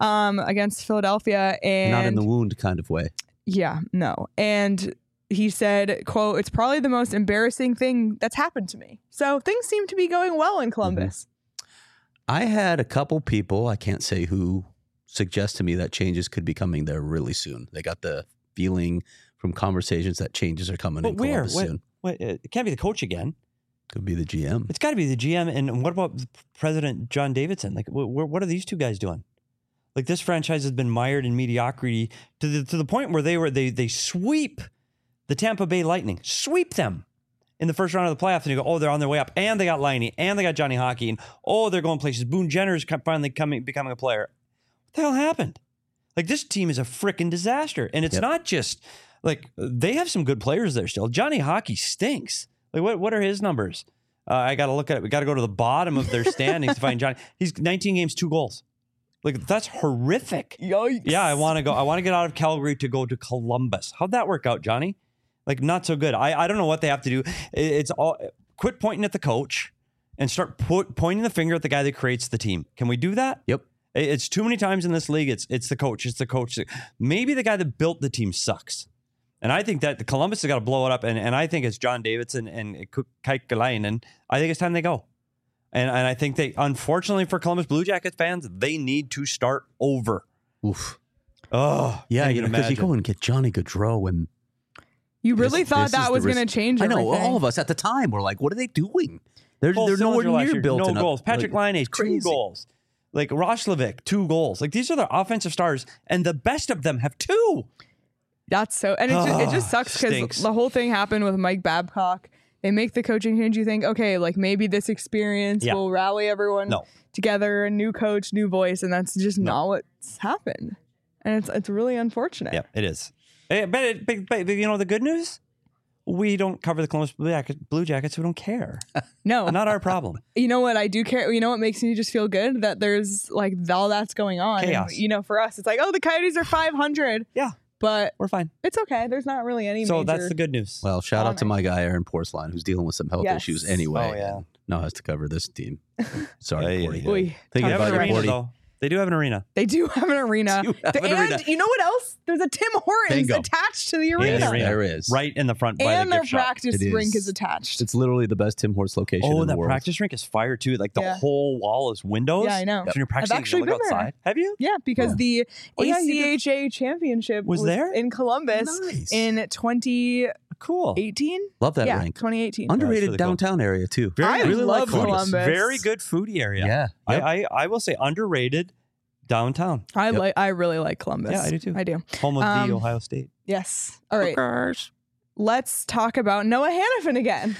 um, against Philadelphia. And Not in the wound kind of way. yeah, no. And he said, quote, "It's probably the most embarrassing thing that's happened to me." So things seem to be going well in Columbus. I had a couple people, I can't say who, suggest to me that changes could be coming there really soon. They got the feeling from conversations that changes are coming But in where? Columbus What, soon. what, uh, it can't be the coach again. Could be the G M. It's got to be the G M. And what about President John Davidson? Like, wh- wh- what are these two guys doing? Like, this franchise has been mired in mediocrity to the to the point where they were they they sweep the Tampa Bay Lightning, sweep them in the first round of the playoffs, and you go, oh, they're on their way up, and they got Liney, and they got Johnny Hockey, and oh, they're going places. Boone Jenner's finally coming becoming a player. What the hell happened? Like, this team is a freaking disaster, and it's Yep. not just like they have some good players there still. Johnny Hockey stinks. Like, what what are his numbers? Uh, I got to look at it. We got to go to the bottom of their standings to find Johnny. He's nineteen games, two goals. Like, that's horrific. Yikes. Yeah, I want to go. I want to get out of Calgary to go to Columbus. How'd that work out, Johnny? Like, not so good. I, I don't know what they have to do. It- It's all quit pointing at the coach and start put, pointing the finger at the guy that creates the team. Can we do that? Yep. It- It's too many times in this league. It's it's the coach. It's the coach. Maybe the guy that built the team sucks. And I think that the Columbus has got to blow it up. And, and I think it's John Davidson and Kaikalainen. I think it's time they go. And and I think they, unfortunately for Columbus Blue Jackets fans, they need to start over. Oof. Oh, Yeah, can't you know, even because you imagine. go and get Johnny Gaudreau, and You really This- thought this that is was the going risk- to change I know everything. all of us at the time were like, "What are they doing? They're Cole they're nowhere Sillinger last near year, built no enough." goals. Patrick Like, Laine, two crazy. goals. Like Roslovic, two goals. Like, these are the offensive stars, and the best of them have two. That's so, and it just, it just Ah, sucks because stinks. the whole thing happened with Mike Babcock. They make the coaching change. You think, okay, like maybe this experience Yeah. will rally everyone No. together, a new coach, new voice, and that's just not what's happened. And it's it's really unfortunate. Yeah, it is. Eh, But, it, but, but you know the good news? We don't cover the Columbus Blue Jackets. Blue Jackets. We don't care. No, Not our problem. you know what I do care. You know what makes me just feel good that there's like all that's going on. And, Chaos. you know, for us, it's like, oh, the Coyotes are five hundred. Yeah, But we're fine. it's okay. There's not really any. So major... that's the good news. Well, shout out to Honor. my guy Aaron Porcelain, who's dealing with some health Yes. issues anyway. Oh, yeah. and now has to cover this team. Sorry, Yeah, yeah, Cordy. yeah. Oy, Thinking they tough have about an you, arena, Cordy. though. They do have an arena. They do have an arena. Do have an and arena. you know what else? There's a Tim Hortons Bingo. attached to the Yeah, arena. the arena. There is. Right in the front by And the their gift shop. practice It rink is. is attached. It's literally the best Tim Hortons location Oh, in the that world. practice rink is fire too. Like the Yeah. whole wall is windows. Yeah, I know. So when you're practicing, actually you can look been there. outside. Have you? Yeah, because the Oh, yeah, you A C H A championship Was there? in Columbus Nice. in twenty Cool. eighteen. Love that yeah, rink. twenty eighteen. Underrated really cool. downtown area too. Very I nice. really love like Columbus. Very good foodie area. Yeah. I, Yep. I I will say underrated downtown. I Yep. like. I really like Columbus. Yeah, I do too. I do. Home of Um, the Ohio State. Yes. All right. Let's talk about Noah Hannafin again.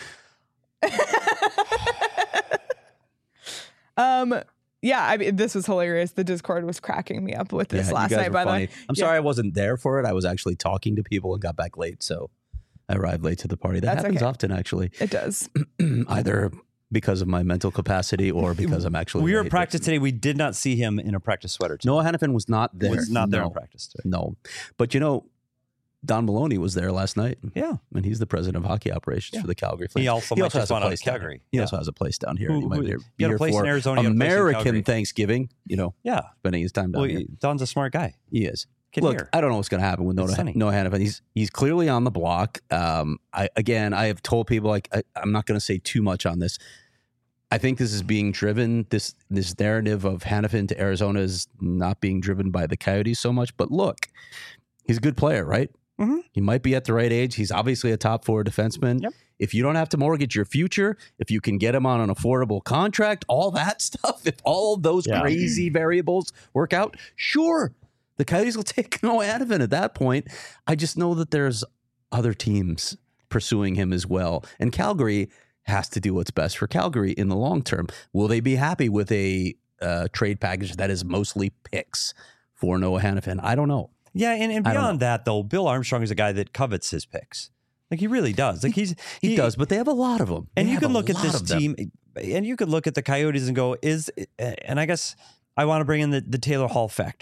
um. Yeah, I mean, this was hilarious. The Discord was cracking me up with this Yeah, you last guys night. were By the funny. way, I'm sorry I wasn't there for it. I was actually talking to people and got back late, so I arrived late to the party. That That's happens okay. often, actually, it does. either because of my mental capacity or because I'm actually. We were late. at practice today. We did not see him in a practice sweater. Today. Noah Hannafin was not there. was not there no, in practice today. No, but you know, Don Maloney was there last night. Yeah. and he's the president of hockey operations Yeah. for the Calgary Flames. He also might just has a want out of place down Calgary. here. He Yeah. also has a place down here. Who- and he might who- be, you be got a here place in for Arizona, you got a place in American Calgary. Thanksgiving. You know, Yeah. spending his time down Well, here. he- Don's a smart guy. He is. Can Look, hear. I don't know what's going to happen with It's Noah, sunny. Noah Hannafin. He's he's clearly on the block. Um, I again, I have told people like I, I'm not going to say too much on this. I think this is being driven. This this narrative of Hannafin to Arizona is not being driven by the Coyotes so much. But look, he's a good player, right? Mhm. He might be at the right age. He's obviously a top four defenseman. Yep. If you don't have to mortgage your future, if you can get him on an affordable contract, all that stuff, if all of those Yeah. crazy variables work out, sure, the Coyotes will take Noah Hannafin at that point. I just know that there's other teams pursuing him as well. And Calgary has to do what's best for Calgary in the long term. Will they be happy with a uh, trade package that is mostly picks for Noah Hannafin? I don't know. Yeah, and, and I don't beyond that, though, Bill Armstrong is a guy that covets his picks. Like, he really does. Like, he's He, does, but they have a lot of them. And They you have can a look at lot this of them. team, and you could look at the Coyotes and go, is, and I guess I want to bring in the, the Taylor Hall factor.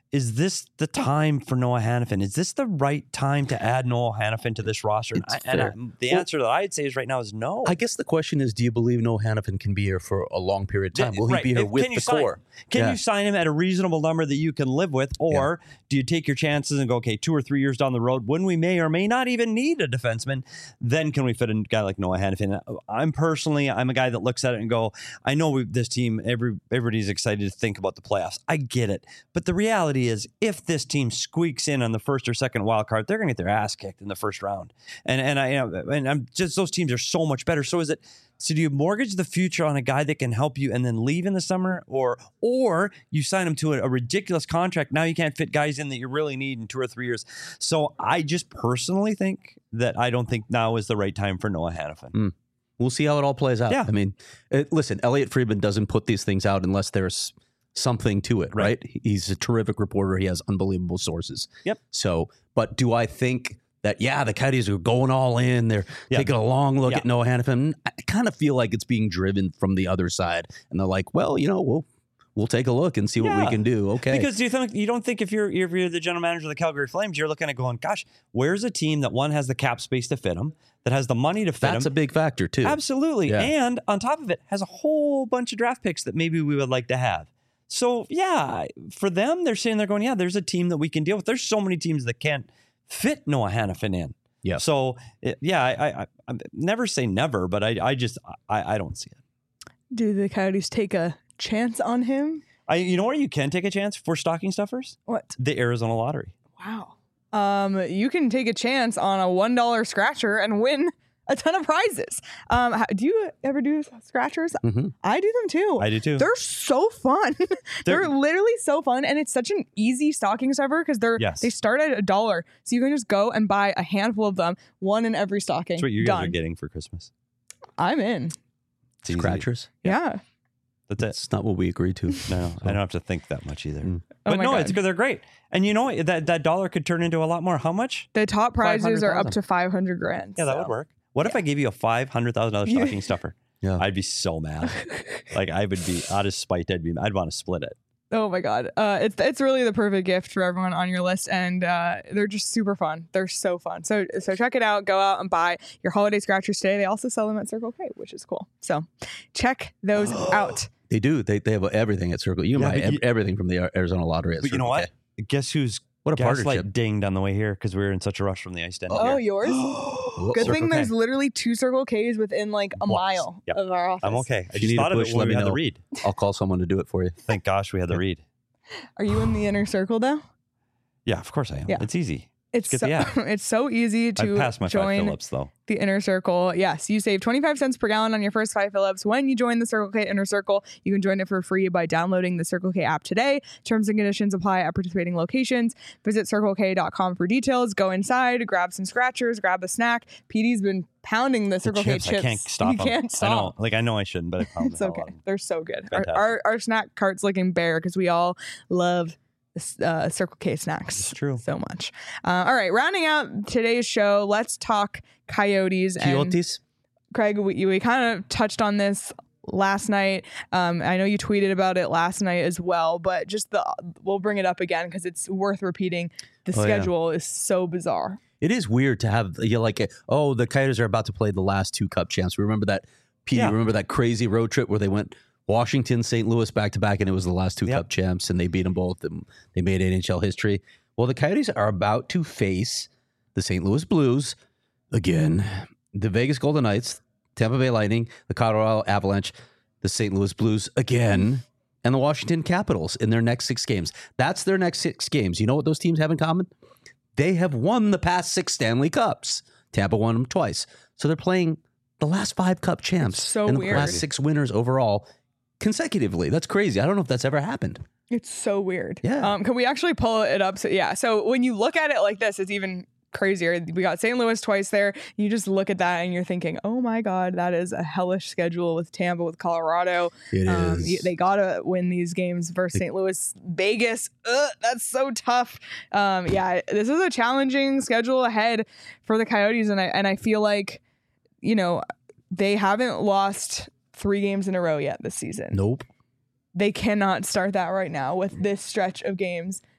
is this the time for Noah Hannafin? Is this the right time to add Noah Hannafin to this roster? And, I, and I, the Well, answer that I'd say is right now is no. I guess the question is, do you believe Noah Hannafin can be here for a long period of time? Will he Right. be here If- with can you the sign- core? Can Yeah. you sign him at a reasonable number that you can live with? Or do you take your chances and go, okay, two or three years down the road, when we may or may not even need a defenseman, then can we fit in a guy like Noah Hannafin? I'm personally, I'm a guy that looks at it and go, I know we, this team, every everybody's excited to think about the playoffs. I get it. But the reality is, if this team squeaks in on the first or second wild card, they're going to get their ass kicked in the first round. And and I you know, and I'm just those teams are so much better. So is it? So do you mortgage the future on a guy that can help you and then leave in the summer, or or you sign him to a, a ridiculous contract? Now you can't fit guys in that you really need in two or three years. So I just personally think that I don't think now is the right time for Noah Hannafin. Mm. We'll see how it all plays out. Yeah. I mean, it, listen, Elliot Friedman doesn't put these things out unless there's something to it, right? Right. He's a terrific reporter. He has unbelievable sources. Yep. So, but do I think that, yeah, the Coyotes are going all in. They're Yeah. taking a long look Yeah. at Noah Hannafin. I kind of feel like it's being driven from the other side. And they're like, well, you know, we'll, we'll take a look and see what we Yeah. can do. Okay. Because do you think you don't think if you're if you're the general manager of the Calgary Flames, you're looking at going, gosh, where's a team that one has the cap space to fit them, that has the money to fit That's them? a big factor too. Absolutely. Yeah. And on top of it, has a whole bunch of draft picks that maybe we would like to have. So, yeah, for them, they're sitting there going, yeah, there's a team that we can deal with. There's so many teams that can't fit Noah Hannafin in. Yeah. So, it, yeah, I, I, I never say never, but I, I just, I, I don't see it. Do the Coyotes take a chance on him? I, you know where you can take a chance for stocking stuffers? What? The Arizona Lottery. Wow. Um, you can take a chance on a one dollar scratcher and win a ton of prizes. Um, how, do you ever do scratchers? Mhm. I do them too. I do too. They're so fun. they're, They're- literally so fun, and it's such an easy stocking stuffer because they're Yes. they start at a dollar, so you can just go and buy a handful of them, one in every stocking. That's what you guys Done. are getting for Christmas. I'm in. It's easy. Scratchers. Yeah. That's it. That's not what we agreed to. No, I don't have to think that much either. Mm. Oh But my no, God. it's good. They're great. And you know what? That that dollar could turn into a lot more. How much? The top prizes are up five hundred thousand. to five hundred grand. Yeah, that so. would work. What if I gave you a five hundred thousand dollar Yeah. stocking stuffer? Yeah. I'd be so mad. Like I would be out of spite. I'd be. I'd want to split it. Oh my god, uh, it's it's really the perfect gift for everyone on your list, and uh, they're just super fun. They're so fun. So so check it out. Go out and buy your holiday scratchers today. They also sell them at Circle K, which is cool. So check those out. They do. They they have everything at Circle. You can Yeah, buy but ev- you- everything from the Arizona Lottery at But you Circle know what? K. Guess who's What a gaslight partnership. dinged on the way here because we were in such a rush from the ice den. Oh, here. yours? Good Circle thing K. there's literally two Circle K's within like a Once. mile Yep. of our office. I'm okay. I If you just need a thought of push, it when let we me had the know. read. I'll call someone to do it for you. Thank gosh we had the read. Are you in the inner circle though? Yeah, of course I am. Yeah. It's easy. It's Get so, the app. it's so easy I to passed my five join Phillips though. the Inner Circle. Yes, you save twenty-five cents per gallon on your first five fill-ups when you join the Circle K Inner Circle. You can join it for free by downloading the Circle K app today. Terms and conditions apply at participating locations. Visit circle k dot com for details. Go inside, grab some scratchers, grab a snack. P D's been pounding the The Circle chips, K chips. I can't stop You them. can't I know. stop. Like I know I shouldn't, but I found It's the hell okay. out of them. They're so good. Our, Fantastic. our our snack cart's looking bare because we all love uh, Circle K snacks. It's true. So much. Uh, all right, rounding out today's show, let's talk Coyotes. And Coyotes. Craig, we, we kind of touched on this last night. Um, I know you tweeted about it last night as well, but just the we'll bring it up again because it's worth repeating. The Oh, yeah. schedule is so bizarre. It is weird to have you like oh the Coyotes are about to play the last two Cup champs. Remember that? P D, Yeah. remember that crazy road trip where they went Washington, Saint Louis back to back, and it was the last two Yep. Cup champs, and they beat them both, and they made N H L history. Well, the Coyotes are about to face the Saint Louis Blues again, the Vegas Golden Knights, Tampa Bay Lightning, the Colorado Avalanche, the Saint Louis Blues again, and the Washington Capitals in their next six games. That's their next six games. You know what those teams have in common? They have won the past six Stanley Cups. Tampa won them twice. So they're playing the last five Cup champs It's so and the weird. last six winners overall consecutively. That's crazy. I don't know if that's ever happened. It's so weird. Yeah. Um, can we actually pull it up? So yeah. So when you look at it like this, it's even crazier. We got Saint Louis twice there. You just look at that and you're thinking, oh my God, that is a hellish schedule with Tampa, with Colorado. It Um, is. y- they gotta win these games versus Saint Louis, Vegas. Ugh, that's so tough. Um, yeah, this is a challenging schedule ahead for the Coyotes, and I and I feel like, you know, they haven't lost three games in a row yet this season. Nope. They cannot start that right now with this stretch of games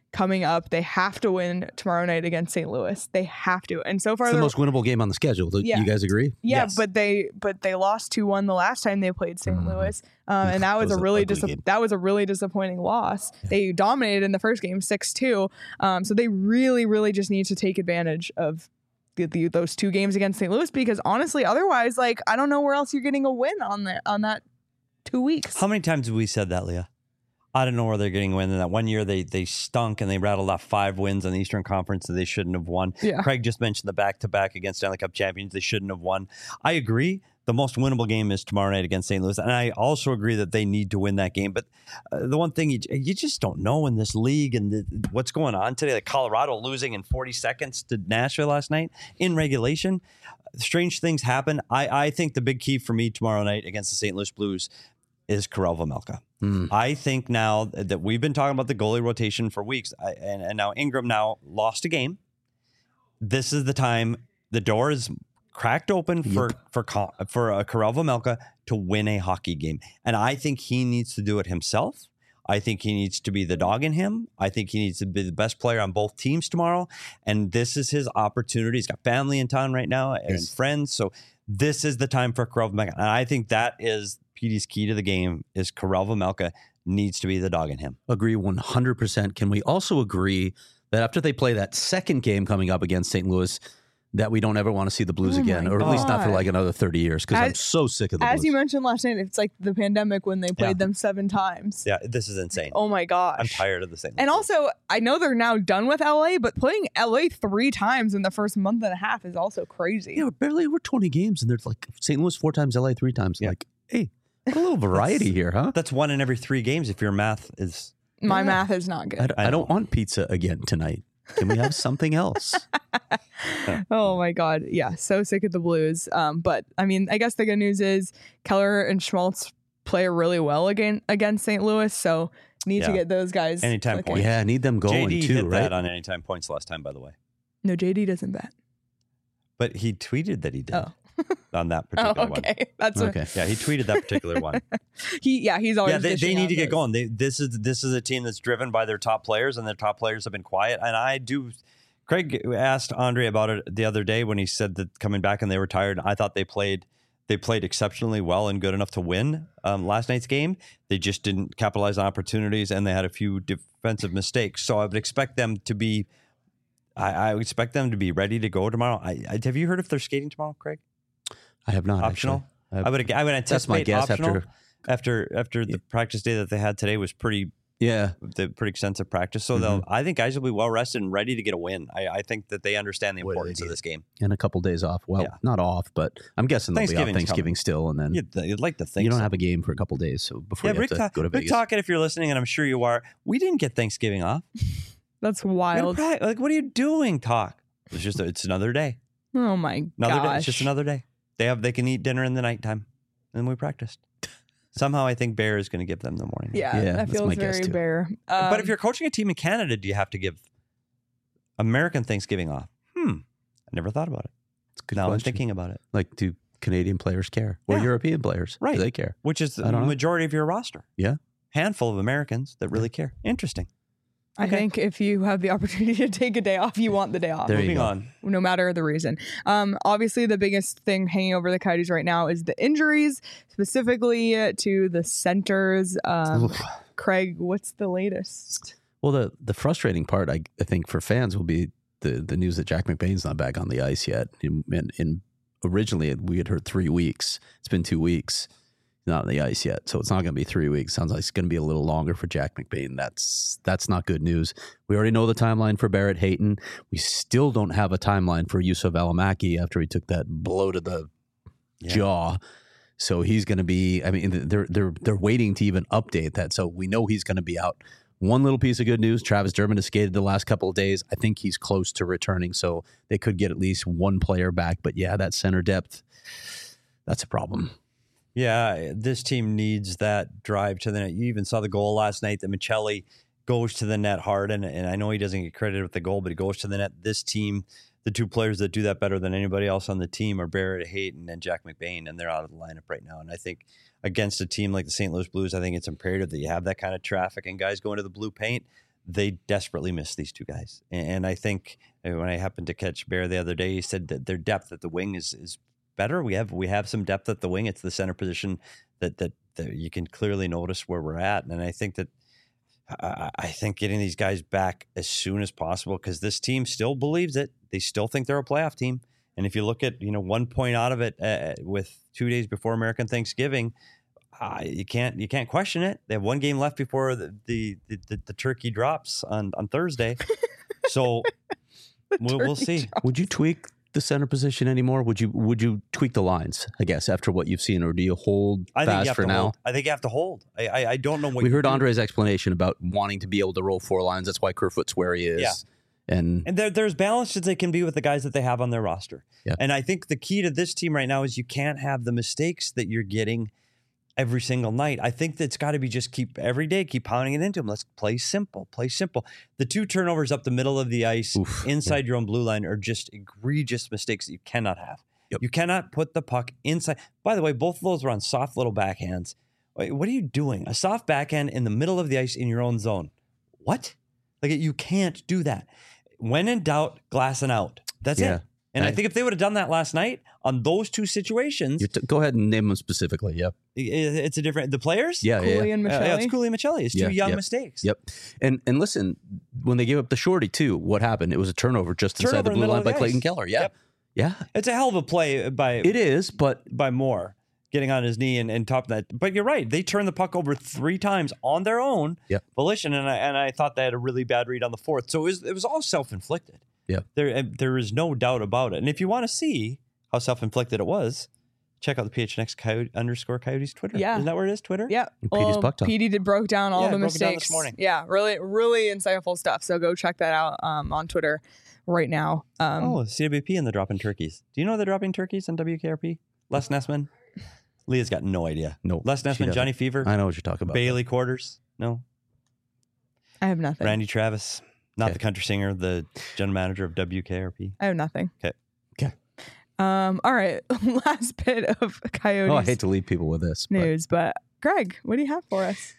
coming up. They have to win tomorrow night against Saint Louis. They have to. And so far, It's the they're- most winnable game on the schedule. Do Yeah. you guys agree? yeah, Yes. but they but they lost two one the last time they played Saint Mhm. Louis, um, and that That was, was a an really ugly dis- game. that was a really disappointing loss. They dominated in the first game six two, um, so they really really just need to take advantage of the, the, those two games against Saint Louis, because honestly, otherwise, like I don't know where else you're getting a win on that on that two weeks. How many times have we said that, Leah? I don't know where they're getting a win. In that one year, they they stunk and they rattled off five wins in the Eastern Conference that they shouldn't have won. Yeah. Craig just mentioned the back-to-back against Stanley Cup champions they shouldn't have won. I agree. The most winnable game is tomorrow night against Saint Louis, and I also agree that they need to win that game. But uh, the one thing you, you just don't know in this league and the, what's going on today, like Colorado losing in forty seconds to Nashville last night in regulation. Strange things happen. I, I think the big key for me tomorrow night against the Saint Louis Blues is Karel Vejmelka. Mm. I think now that we've been talking about the goalie rotation for weeks, I, and, and now Ingram now lost a game. This is the time the door is cracked open for for Co- for uh, Karel Vejmelka to win a hockey game, and I think he needs to do it himself. I think he needs to be the dog in him. I think he needs to be the best player on both teams tomorrow, and this is his opportunity. He's got family in town right now and Yes. friends, so this is the time for Karel Vejmelka, and I think that is P D's key to the game. Is Karel Vejmelka needs to be the dog in him. Agree one hundred percent. Can we also agree that after they play that second game coming up against Saint Louis, that we don't ever want to see the Blues Oh again, my or at least not for God. like another thirty years, because I'm As- so sick of the As Blues. you mentioned last night, it's like the pandemic when they played Yeah. them seven times. Yeah, this is insane. Oh my gosh. I'm tired of the same. And also, I know they're now done with L A, but playing L A three times in the first month and a half is also crazy. yeah, we're barely over twenty games, and there's like Saint Louis four times, L A three times. Yeah. Like, hey, a little variety here, huh? that's one in every three games if your math is. My Yeah. math is not I, good. d- I don't want pizza again tonight. Can we have something else? Oh my god, yeah, so sick of the Blues. Um, but I mean, I guess the good news is Keller and Schmaltz play really well again against Saint Louis, so need to Yeah. get those guys Anytime clicking. point. Yeah, I need them going J D too, hit right? that on anytime points last time, by the way. No, J D doesn't bet. But he tweeted that he did Oh. on that Oh, particular one. okay, that's Okay. Yeah, he tweeted that particular one. what he. Yeah, he's always. yeah, they, they dishing need out to get those. going. They, this is this is a team that's driven by their top players, and their top players have been quiet. And I do. Craig asked Andre about it the other day when he said that coming back and they were tired. I thought they played they played exceptionally well and good enough to win um, last night's game. They just didn't capitalize on opportunities, and they had a few defensive mistakes. So I would expect them to be. I, I would expect them to be ready to go tomorrow. I, I, have you heard if they're skating tomorrow, Craig? I have not Optional. actually. I would. I would anticipate That's my guess optional after. after after the practice day that they had today was pretty Yeah, the pretty extensive practice. So Mm-hmm. they'll. I think guys will be well rested and ready to get a win. I, I think that they understand the What an importance of idiot. this game. and a couple days off. Well, Yeah. not off, but I'm guessing they'll be off Thanksgiving's Thanksgiving still, and then You'd, you'd like to think you don't so. have a game for a couple days. So before Yeah, you have Rick, to talk, go to Rick Vegas, Talkett, if you're listening, and I'm sure you are, we didn't get Thanksgiving off. That's We had a wild. pra- Like, what are you doing? Talk. It's just it's another day. Oh my Another gosh. day. It's just another day. They have they can eat dinner in the nighttime, and we practiced. Somehow, I think Bear is going to give them the morning. Yeah, Yeah, that that's feels my guess, very too. bare. Um, But if you're coaching a team in Canada, do you have to give American Thanksgiving off? Hmm. I never thought about it. it's a good now I'm question. thinking about it. Like, do Canadian players care or Yeah. European players? Right. Do they care? Which is the I don't know. majority of your roster. Yeah. Handful of Americans that really care. Interesting. I okay. think if you have the opportunity to take a day off, you want the day off. There you Moving go. on. No matter the reason. Um, obviously, the biggest thing hanging over the Coyotes right now is the injuries, specifically to the centers. Um, Oof. Craig, what's the latest? Well, the the frustrating part, I, I think, for fans will be the the news that Jack McBain's not back on the ice yet. And, and, and originally we had heard three weeks. It's been two weeks. He's not on the ice yet, so it's not going to be three weeks. Sounds like it's going to be a little longer for Jack McBain. That's that's not good news. We already know the timeline for Barrett Hayton. We still don't have a timeline for Yusuf Alamaki after he took that blow to the Yeah. jaw. So he's going to be. I mean, they're they're they're waiting to even update that. So we know he's going to be out. One little piece of good news: Travis Dermott has skated the last couple of days. I think he's close to returning, so they could get at least one player back. But yeah, that center depth, that's a problem. Yeah, this team needs that drive to the net. You even saw the goal last night that Michelli goes to the net hard, and, and I know he doesn't get credit with the goal, but he goes to the net. This team, the two players that do that better than anybody else on the team are Barrett Hayton and Jack McBain, and they're out of the lineup right now. And I think against a team like the Saint Louis Blues, I think it's imperative that you have that kind of traffic and guys go into the blue paint. they desperately miss these two guys. And I think when I happened to catch Bear the other day, he said that their depth at the wing is is better. We have we have some depth at the wing. It's the center position that that, that you can clearly notice where we're at. And I think that I, I think getting these guys back as soon as possible, because this team still believes it. They still think they're a playoff team. And if you look at, you know, one point out of it uh, with two days before American Thanksgiving, uh, you can't you can't question it. They have one game left before the the the, the turkey drops on, on Thursday. So we'll, we'll see. drops. Would you tweak the center position anymore? Would you would you tweak the lines, I guess, after what you've seen, or do you hold I think you fast have for to now? hold. I think you have to hold. I I, I don't know what We you heard do. Andre's explanation about wanting to be able to roll four lines. That's why Kerfoot's where he is. Yeah. And, And there, there's balance as they can be with the guys that they have on their roster. Yeah. And I think the key to this team right now is you can't have the mistakes that you're getting every single night. I think that's got to be just keep every day, keep pounding it into them. Let's play simple, play simple. The two turnovers up the middle of the ice Oof, inside your own blue line are just egregious mistakes that you cannot have. Yep. You cannot put the puck inside. By the way, both of those were on soft little backhands. Wait, what are you doing? A soft backhand in the middle of the ice in your own zone. What? Like, you can't do that. When in doubt, glassing out. That's Yeah. it. And I I- think if they would have done that last night on those two situations, you t- go ahead and name them specifically. Yep. i- it's a different. The players, Yeah. Yeah. Cooley yeah. and Uh, Michelli. yeah, it's Cooley and Michelli. It's two Yeah, young yep. mistakes. Yep. And and listen, when they gave up the shorty too, what happened? It was a turnover just inside Turnover the in the blue middle line of by the Clayton ice. Keller. Yeah. Yep. Yeah. It's a hell of a play by It is, but by Moore getting on his knee and, and topping that. But you're right. They turned the puck over three times on their own Yep. volition, and I and I thought they had a really bad read on the fourth. So it was it was all self inflicted. Yep. There and there is no doubt about it. And if you want to see how self inflicted it was, check out the P H N X Coyote underscore Coyotes Twitter. Yeah. Isn't that where it is? Twitter. Yeah. And Petey's Well, Puck Talk. Petey did broke down all Yeah, the broke it down mistakes this morning. Yeah, really, really insightful stuff. So go check that out um, on Twitter right now. Um, Oh, C W P and the dropping turkeys. Do you know they're dropping turkeys on W K R P? Les Nessman. Leah's got no idea. no. Les she Nessman, doesn't. Johnny Fever, I know what you're talking about. Bailey Quarters. No. I have nothing. Randy Travis. Not Okay. the country singer, the general manager of W K R P. I have nothing. Okay. Okay. Um. All right. Last bit of Coyotes Oh, I hate to leave people with this. But. news, but Greg, what do you have for us?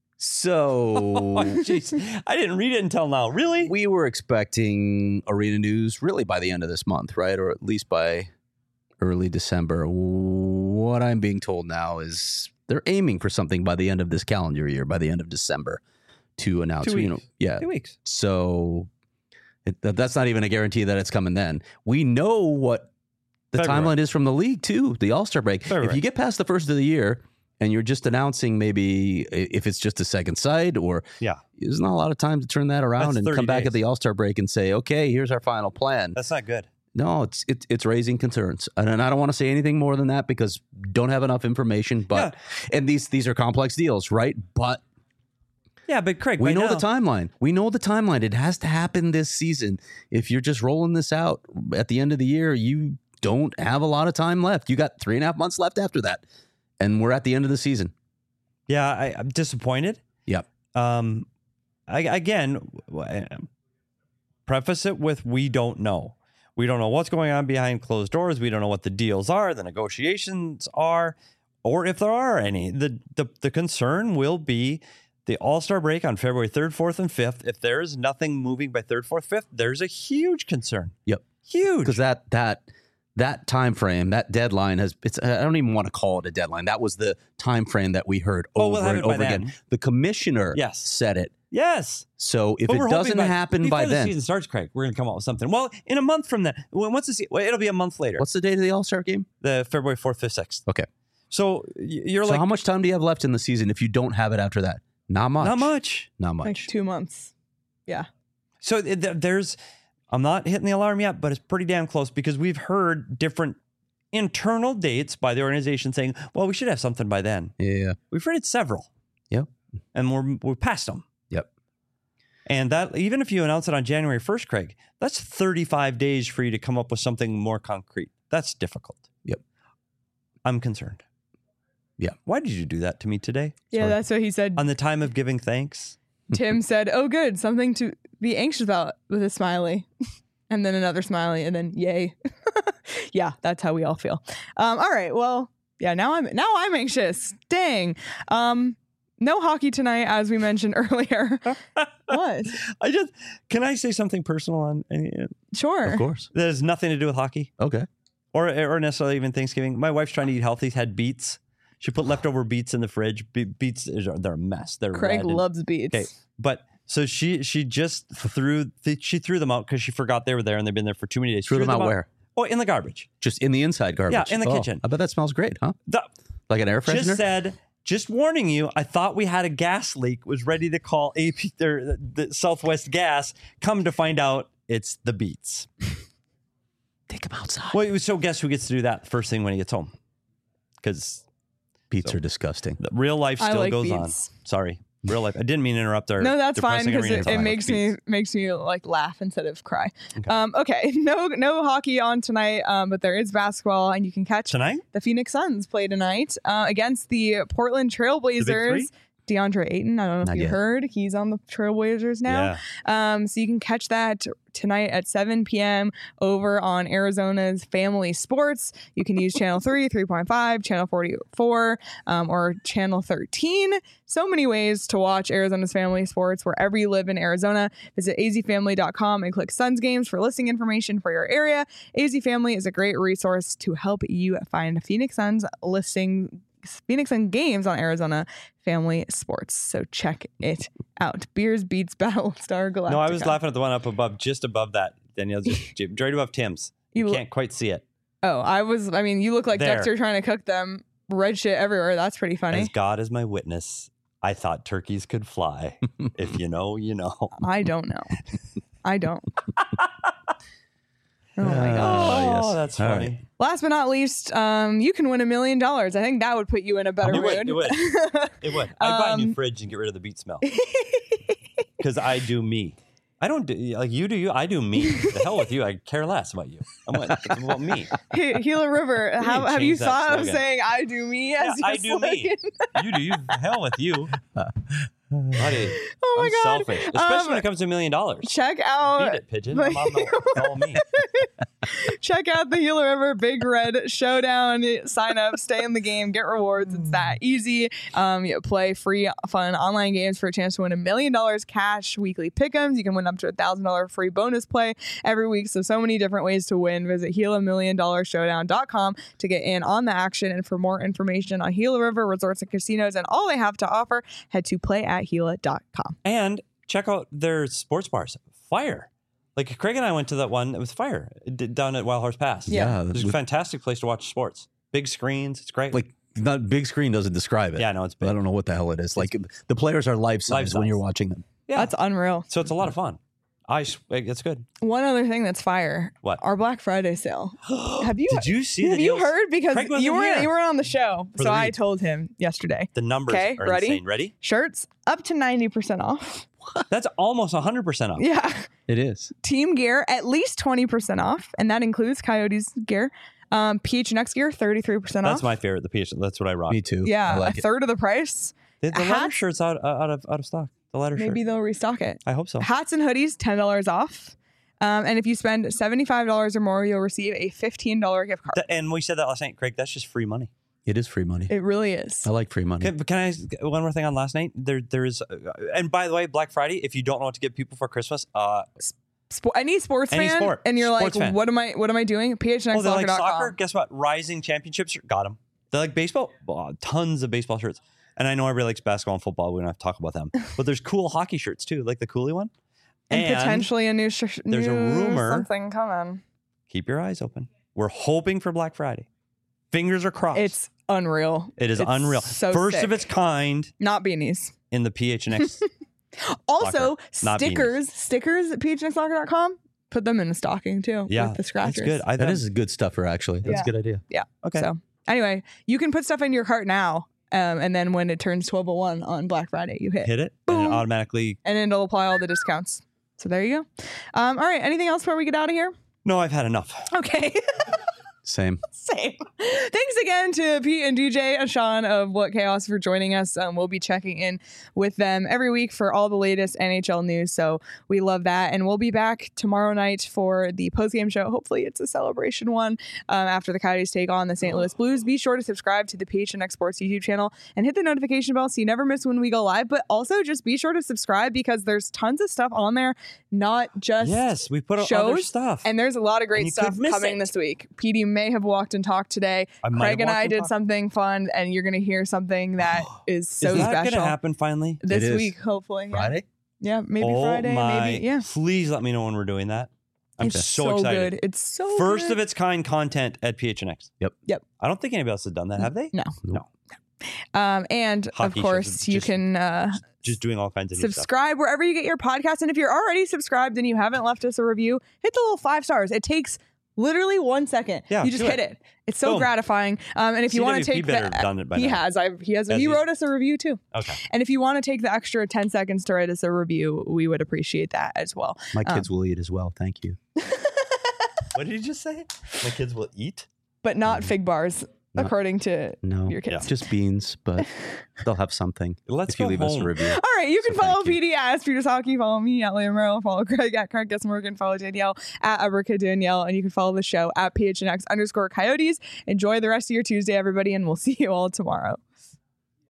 So Oh, jeez. I didn't read it until now. Really? we were expecting arena news really by the end of this month, right? Or at least by early December. What I'm being told now is they're aiming for something by the end of this calendar year, by the end of December, to announce. Two You know, weeks. yeah. Two weeks. So it, that- that's not even a guarantee that it's coming then. We know what the February. timeline is from the league too, the All-Star break. If February. you get past the first of the year and you're just announcing maybe i- if it's just a second side, or Yeah. there's not a lot of time to turn that around That's and thirty come back days. at the All-Star break and say, okay, here's our final plan. That's not good. No, it's it's it's raising concerns, and, and I don't want to say anything more than that because don't have enough information. But and these these are complex deals, right? But Yeah, but Craig, we by know now- the timeline. We know the timeline. It has to happen this season. If you're just rolling this out at the end of the year, you don't have a lot of time left. You got three and a half months left after that, and we're at the end of the season. Yeah, I, I'm disappointed. Yep. Um, I, again, w- preface it with we don't know. We don't know what's going on behind closed doors. We don't know what the deals are, the negotiations are, or if there are any. The the, the concern will be the All-Star break on February third, fourth, and fifth. If there is nothing moving by third, fourth, fifth, there's a huge concern. Yep. Huge. Because that that that time frame, that deadline has it's I don't even want to call it a deadline. That was the time frame that we heard Oh, over we'll have and it by over again. then. The commissioner Yes. said it. Yes. So if But we're it hoping doesn't happen before by the then, season starts, Craig, we're going to come up with something. Well, in a month from then, well, once the se- well, it'll be a month later. what's the date of the All-Star game? The February fourth, fifth, sixth. Okay. So y- you're So like, how much time do you have left in the season if you don't have it after that? Not much. not much. Not much. Like two months. Yeah. So th- th- there's, I'm not hitting the alarm yet, but it's pretty damn close because we've heard different internal dates by the organization saying, well, we should have something by then. Yeah. We've heard it several. Yep. And we're, we're past them. Yep. And that, even if you announce it on January first, Craig, that's thirty-five days for you to come up with something more concrete. That's difficult. Yep. I'm concerned. Yeah. Why did you do that to me today? Yeah, Sorry. that's what he said. On the time of giving thanks? Tim said, "Oh, good, something to be anxious about," with a smiley, and then another smiley, and then yay. Yeah, that's how we all feel. Um, all right, well, yeah. Now I'm now I'm anxious. Dang. Um, No hockey tonight, as we mentioned earlier. What? I just can I say something personal on? Uh, Sure. Of course. that has nothing to do with hockey Okay. or or necessarily even Thanksgiving. My wife's trying to eat healthy. Had beets. She put leftover beets in the fridge. Be- beets are they're a mess. They're Craig red and- loves beats. Okay, but so she she just threw th- she threw them out because she forgot they were there and they've been there for too many days. Threw them out where? Oh, in the garbage. Just in the inside garbage. Yeah, in the Oh, kitchen. I bet that smells great, huh? The, Like an air freshener. just said, just warning you. I thought we had a gas leak. Was ready to call A P or the Southwest Gas. Come to find out, it's the beets. Take them outside. Well, so guess who gets to do that first thing when he gets home? Because Beets are disgusting. real life I still like goes beets. on. Sorry, real life. I didn't mean to interrupt our. No, that's fine depressing because arena it, talk it about makes me beets. makes me like laugh instead of cry. Okay. Um, okay, no no hockey on tonight, um, but there is basketball, and you can catch Tonight? the Phoenix Suns play tonight uh, against the Portland three? Trailblazers. DeAndre Ayton, I don't know Not if you yet. heard, he's on the Trailblazers now. Um, so you can catch that tonight at seven p.m. over on Arizona's Family Sports. You can use channel three, three point five, channel forty-four, um, or channel thirteen. So many ways to watch Arizona's Family Sports wherever you live in Arizona. Visit a z family dot com and click Suns Games for listing information for your area. A Z Family is a great resource to help you find Phoenix Suns listing Phoenix Sun games on Arizona Family Sports. So check it out. Beers beats Battlestar Galactica. No, I was laughing at the one up above, just above that. Danielle, just j- right above Tim's. You, You- can't quite see it. Oh, I was, I mean, you look like There. Dexter trying to cook them. Red shit everywhere. That's pretty funny. As God is my witness, I thought turkeys could fly. If you know, you know. I don't know. I don't. Oh my Uh, gosh. Oh, yes. that's All funny. right. Last but not least, um, you can win a million dollars. I think that would put you in a better It would, mood. it would. It would. I'd buy a new Um, fridge and get rid of the beet smell. Because I do me. I don't do, like you do you. I do me. The hell with you. I care less about you. I'm like, it's about me. Hey, Gila River, need have, to have you change that thought of slogan. saying I do me as Yeah, your I do me. slogan? You do you. The hell with you. Buddy, Oh my I'm God. selfish. Especially Um, when it comes to a million dollars. Check out Beat it, pigeon. I'm on the, it's all me. check out the Gila River Big Red Showdown. Sign up, stay in the game, get rewards. It's that easy. Um, you play free, fun online games for a chance to win a million dollars cash weekly pick'ems. You can win up to a thousand dollar free bonus play every week. So so many different ways to win. Visit Gila Million Dollar Showdown dot com to get in on the action and for more information on Gila River Resorts and Casinos and all they have to offer. Head to play at Gila dot com. And check out their sports bars. Fire. Like Craig and I went to that one. It was Fire d- down at Wild Horse Pass. Yeah. It's a with- fantastic place to watch sports. Big screens. It's great. like not big screen doesn't describe it. yeah, no, it's But I big. don't know what the hell it is. Like the players are life size Life-size. when you're watching them. Yeah. That's unreal. So it's a lot of fun. I, s- it's good. One other thing that's fire. What? Our Black Friday sale. Have you Did you see the Have you deals? heard? Because Craig wasn't you were here. you were on the show, For so the I read. told him yesterday. The numbers Okay, are ready? insane. Ready? Shirts up to ninety percent off. That's almost one hundred percent off. Yeah, It is. team gear at least twenty percent off, and that includes Coyotes gear. Um, P H N X gear thirty three percent off. That's my favorite. The P H. That's what I rock. Me too. yeah, I like a it. third of the price. The, the leather Hats- shirt's out, out of out of stock. The leather Maybe shirt. they'll restock it. I hope so. Hats and hoodies ten dollars off. Um, and if you spend seventy five dollars or more, you'll receive a fifteen dollar gift card. Th- and we said that last night, Craig. That's just free money. It is free money. It really is. I like free money. Can, can I one more thing on last night? There, there is, uh, and by the way, Black Friday. If you don't know what to get people for Christmas, uh, Spo- any sports Any fan, sport. and you're Sports like, fan. what am I? What am I doing? P H N X oh, they like soccer dot com. soccer. Guess what? Rising championships got them. They like baseball. Oh, tons of baseball shirts. And I know everybody likes basketball and football. We don't have to talk about them. But there's cool hockey shirts too, like the Cooley one. and, potentially a new sh- there's a new rumor- something coming. Keep your eyes open. We're hoping for Black Friday. Fingers are crossed. It's unreal. it is It's unreal. So First sick. of its kind Not beanies. in the P H N X. Also, Soccer, not stickers. Stickers at P H N X soccer dot com. Put them in the stocking too. yeah, with the scratchers. It's good. I that thought- is a good stuffer, actually. That's Yeah. a good idea. Yeah. okay. So anyway, you can put stuff in your cart now, um, and then when it turns twelve oh one on Black Friday, you hit, Hit it and Boom. it automatically. and it'll apply all the discounts. So there you go. Um, all right. Anything else before we get out of here? No, I've had enough. Okay. Same. Same. Thanks again to Pete and D J and Sean of What Chaos for joining us. Um, we'll be checking in with them every week for all the latest N H L news. So we love that. And we'll be back tomorrow night for the postgame show. Hopefully it's a celebration one um, after the Coyotes take on the Saint Louis Blues. Be sure to subscribe to the P H N X Sports YouTube channel and hit the notification bell so you never miss when we go live. But also just be sure to subscribe because there's tons of stuff on there, not just Yes, we put out shows, other stuff. and there's a lot of And great you stuff could miss coming it. this week. P D may have walked and talked today. I might Craig have and walked I and did talked. something fun, and you're going to hear something that is so Is that special going to happen finally? this It is. week, hopefully. Yeah. Friday? Yeah, maybe oh Friday, my, maybe. Yeah. Please let me know when we're doing that. I'm It's so, so excited. good. It's so First good. of its kind content at P H N X. Yep. Yep. I don't think anybody else has done that, have they? No. No. Um, and Hockey of shows course, are you just- can uh, Just doing all kinds of new stuff. subscribe wherever you get your podcast. And if you're already subscribed and you haven't left us a review, hit the little five stars. It takes literally one second. Yeah, you just do hit it. it. It's so Boom. gratifying. Um, and if you want to C W P take better the, have done it by he now. has. I he has. Has He he? wrote us a review too. Okay. And if you want to take the extra ten seconds to write us a review, we would appreciate that as well. My Um, kids will eat as well. Thank you. What did you just say? My kids will eat? But not fig bars, No. according to No, your kids. just beans, but they'll have something. Let's if you go leave us home. a review. All right, you can So follow thank you. P D at Peters Hockey. Follow me at Liam Merrill. Follow Craig at Craig Guess Morgan. Follow Danielle at Aberka Danielle. And you can follow the show at P H N X underscore Coyotes. Enjoy the rest of your Tuesday, everybody, and we'll see you all tomorrow.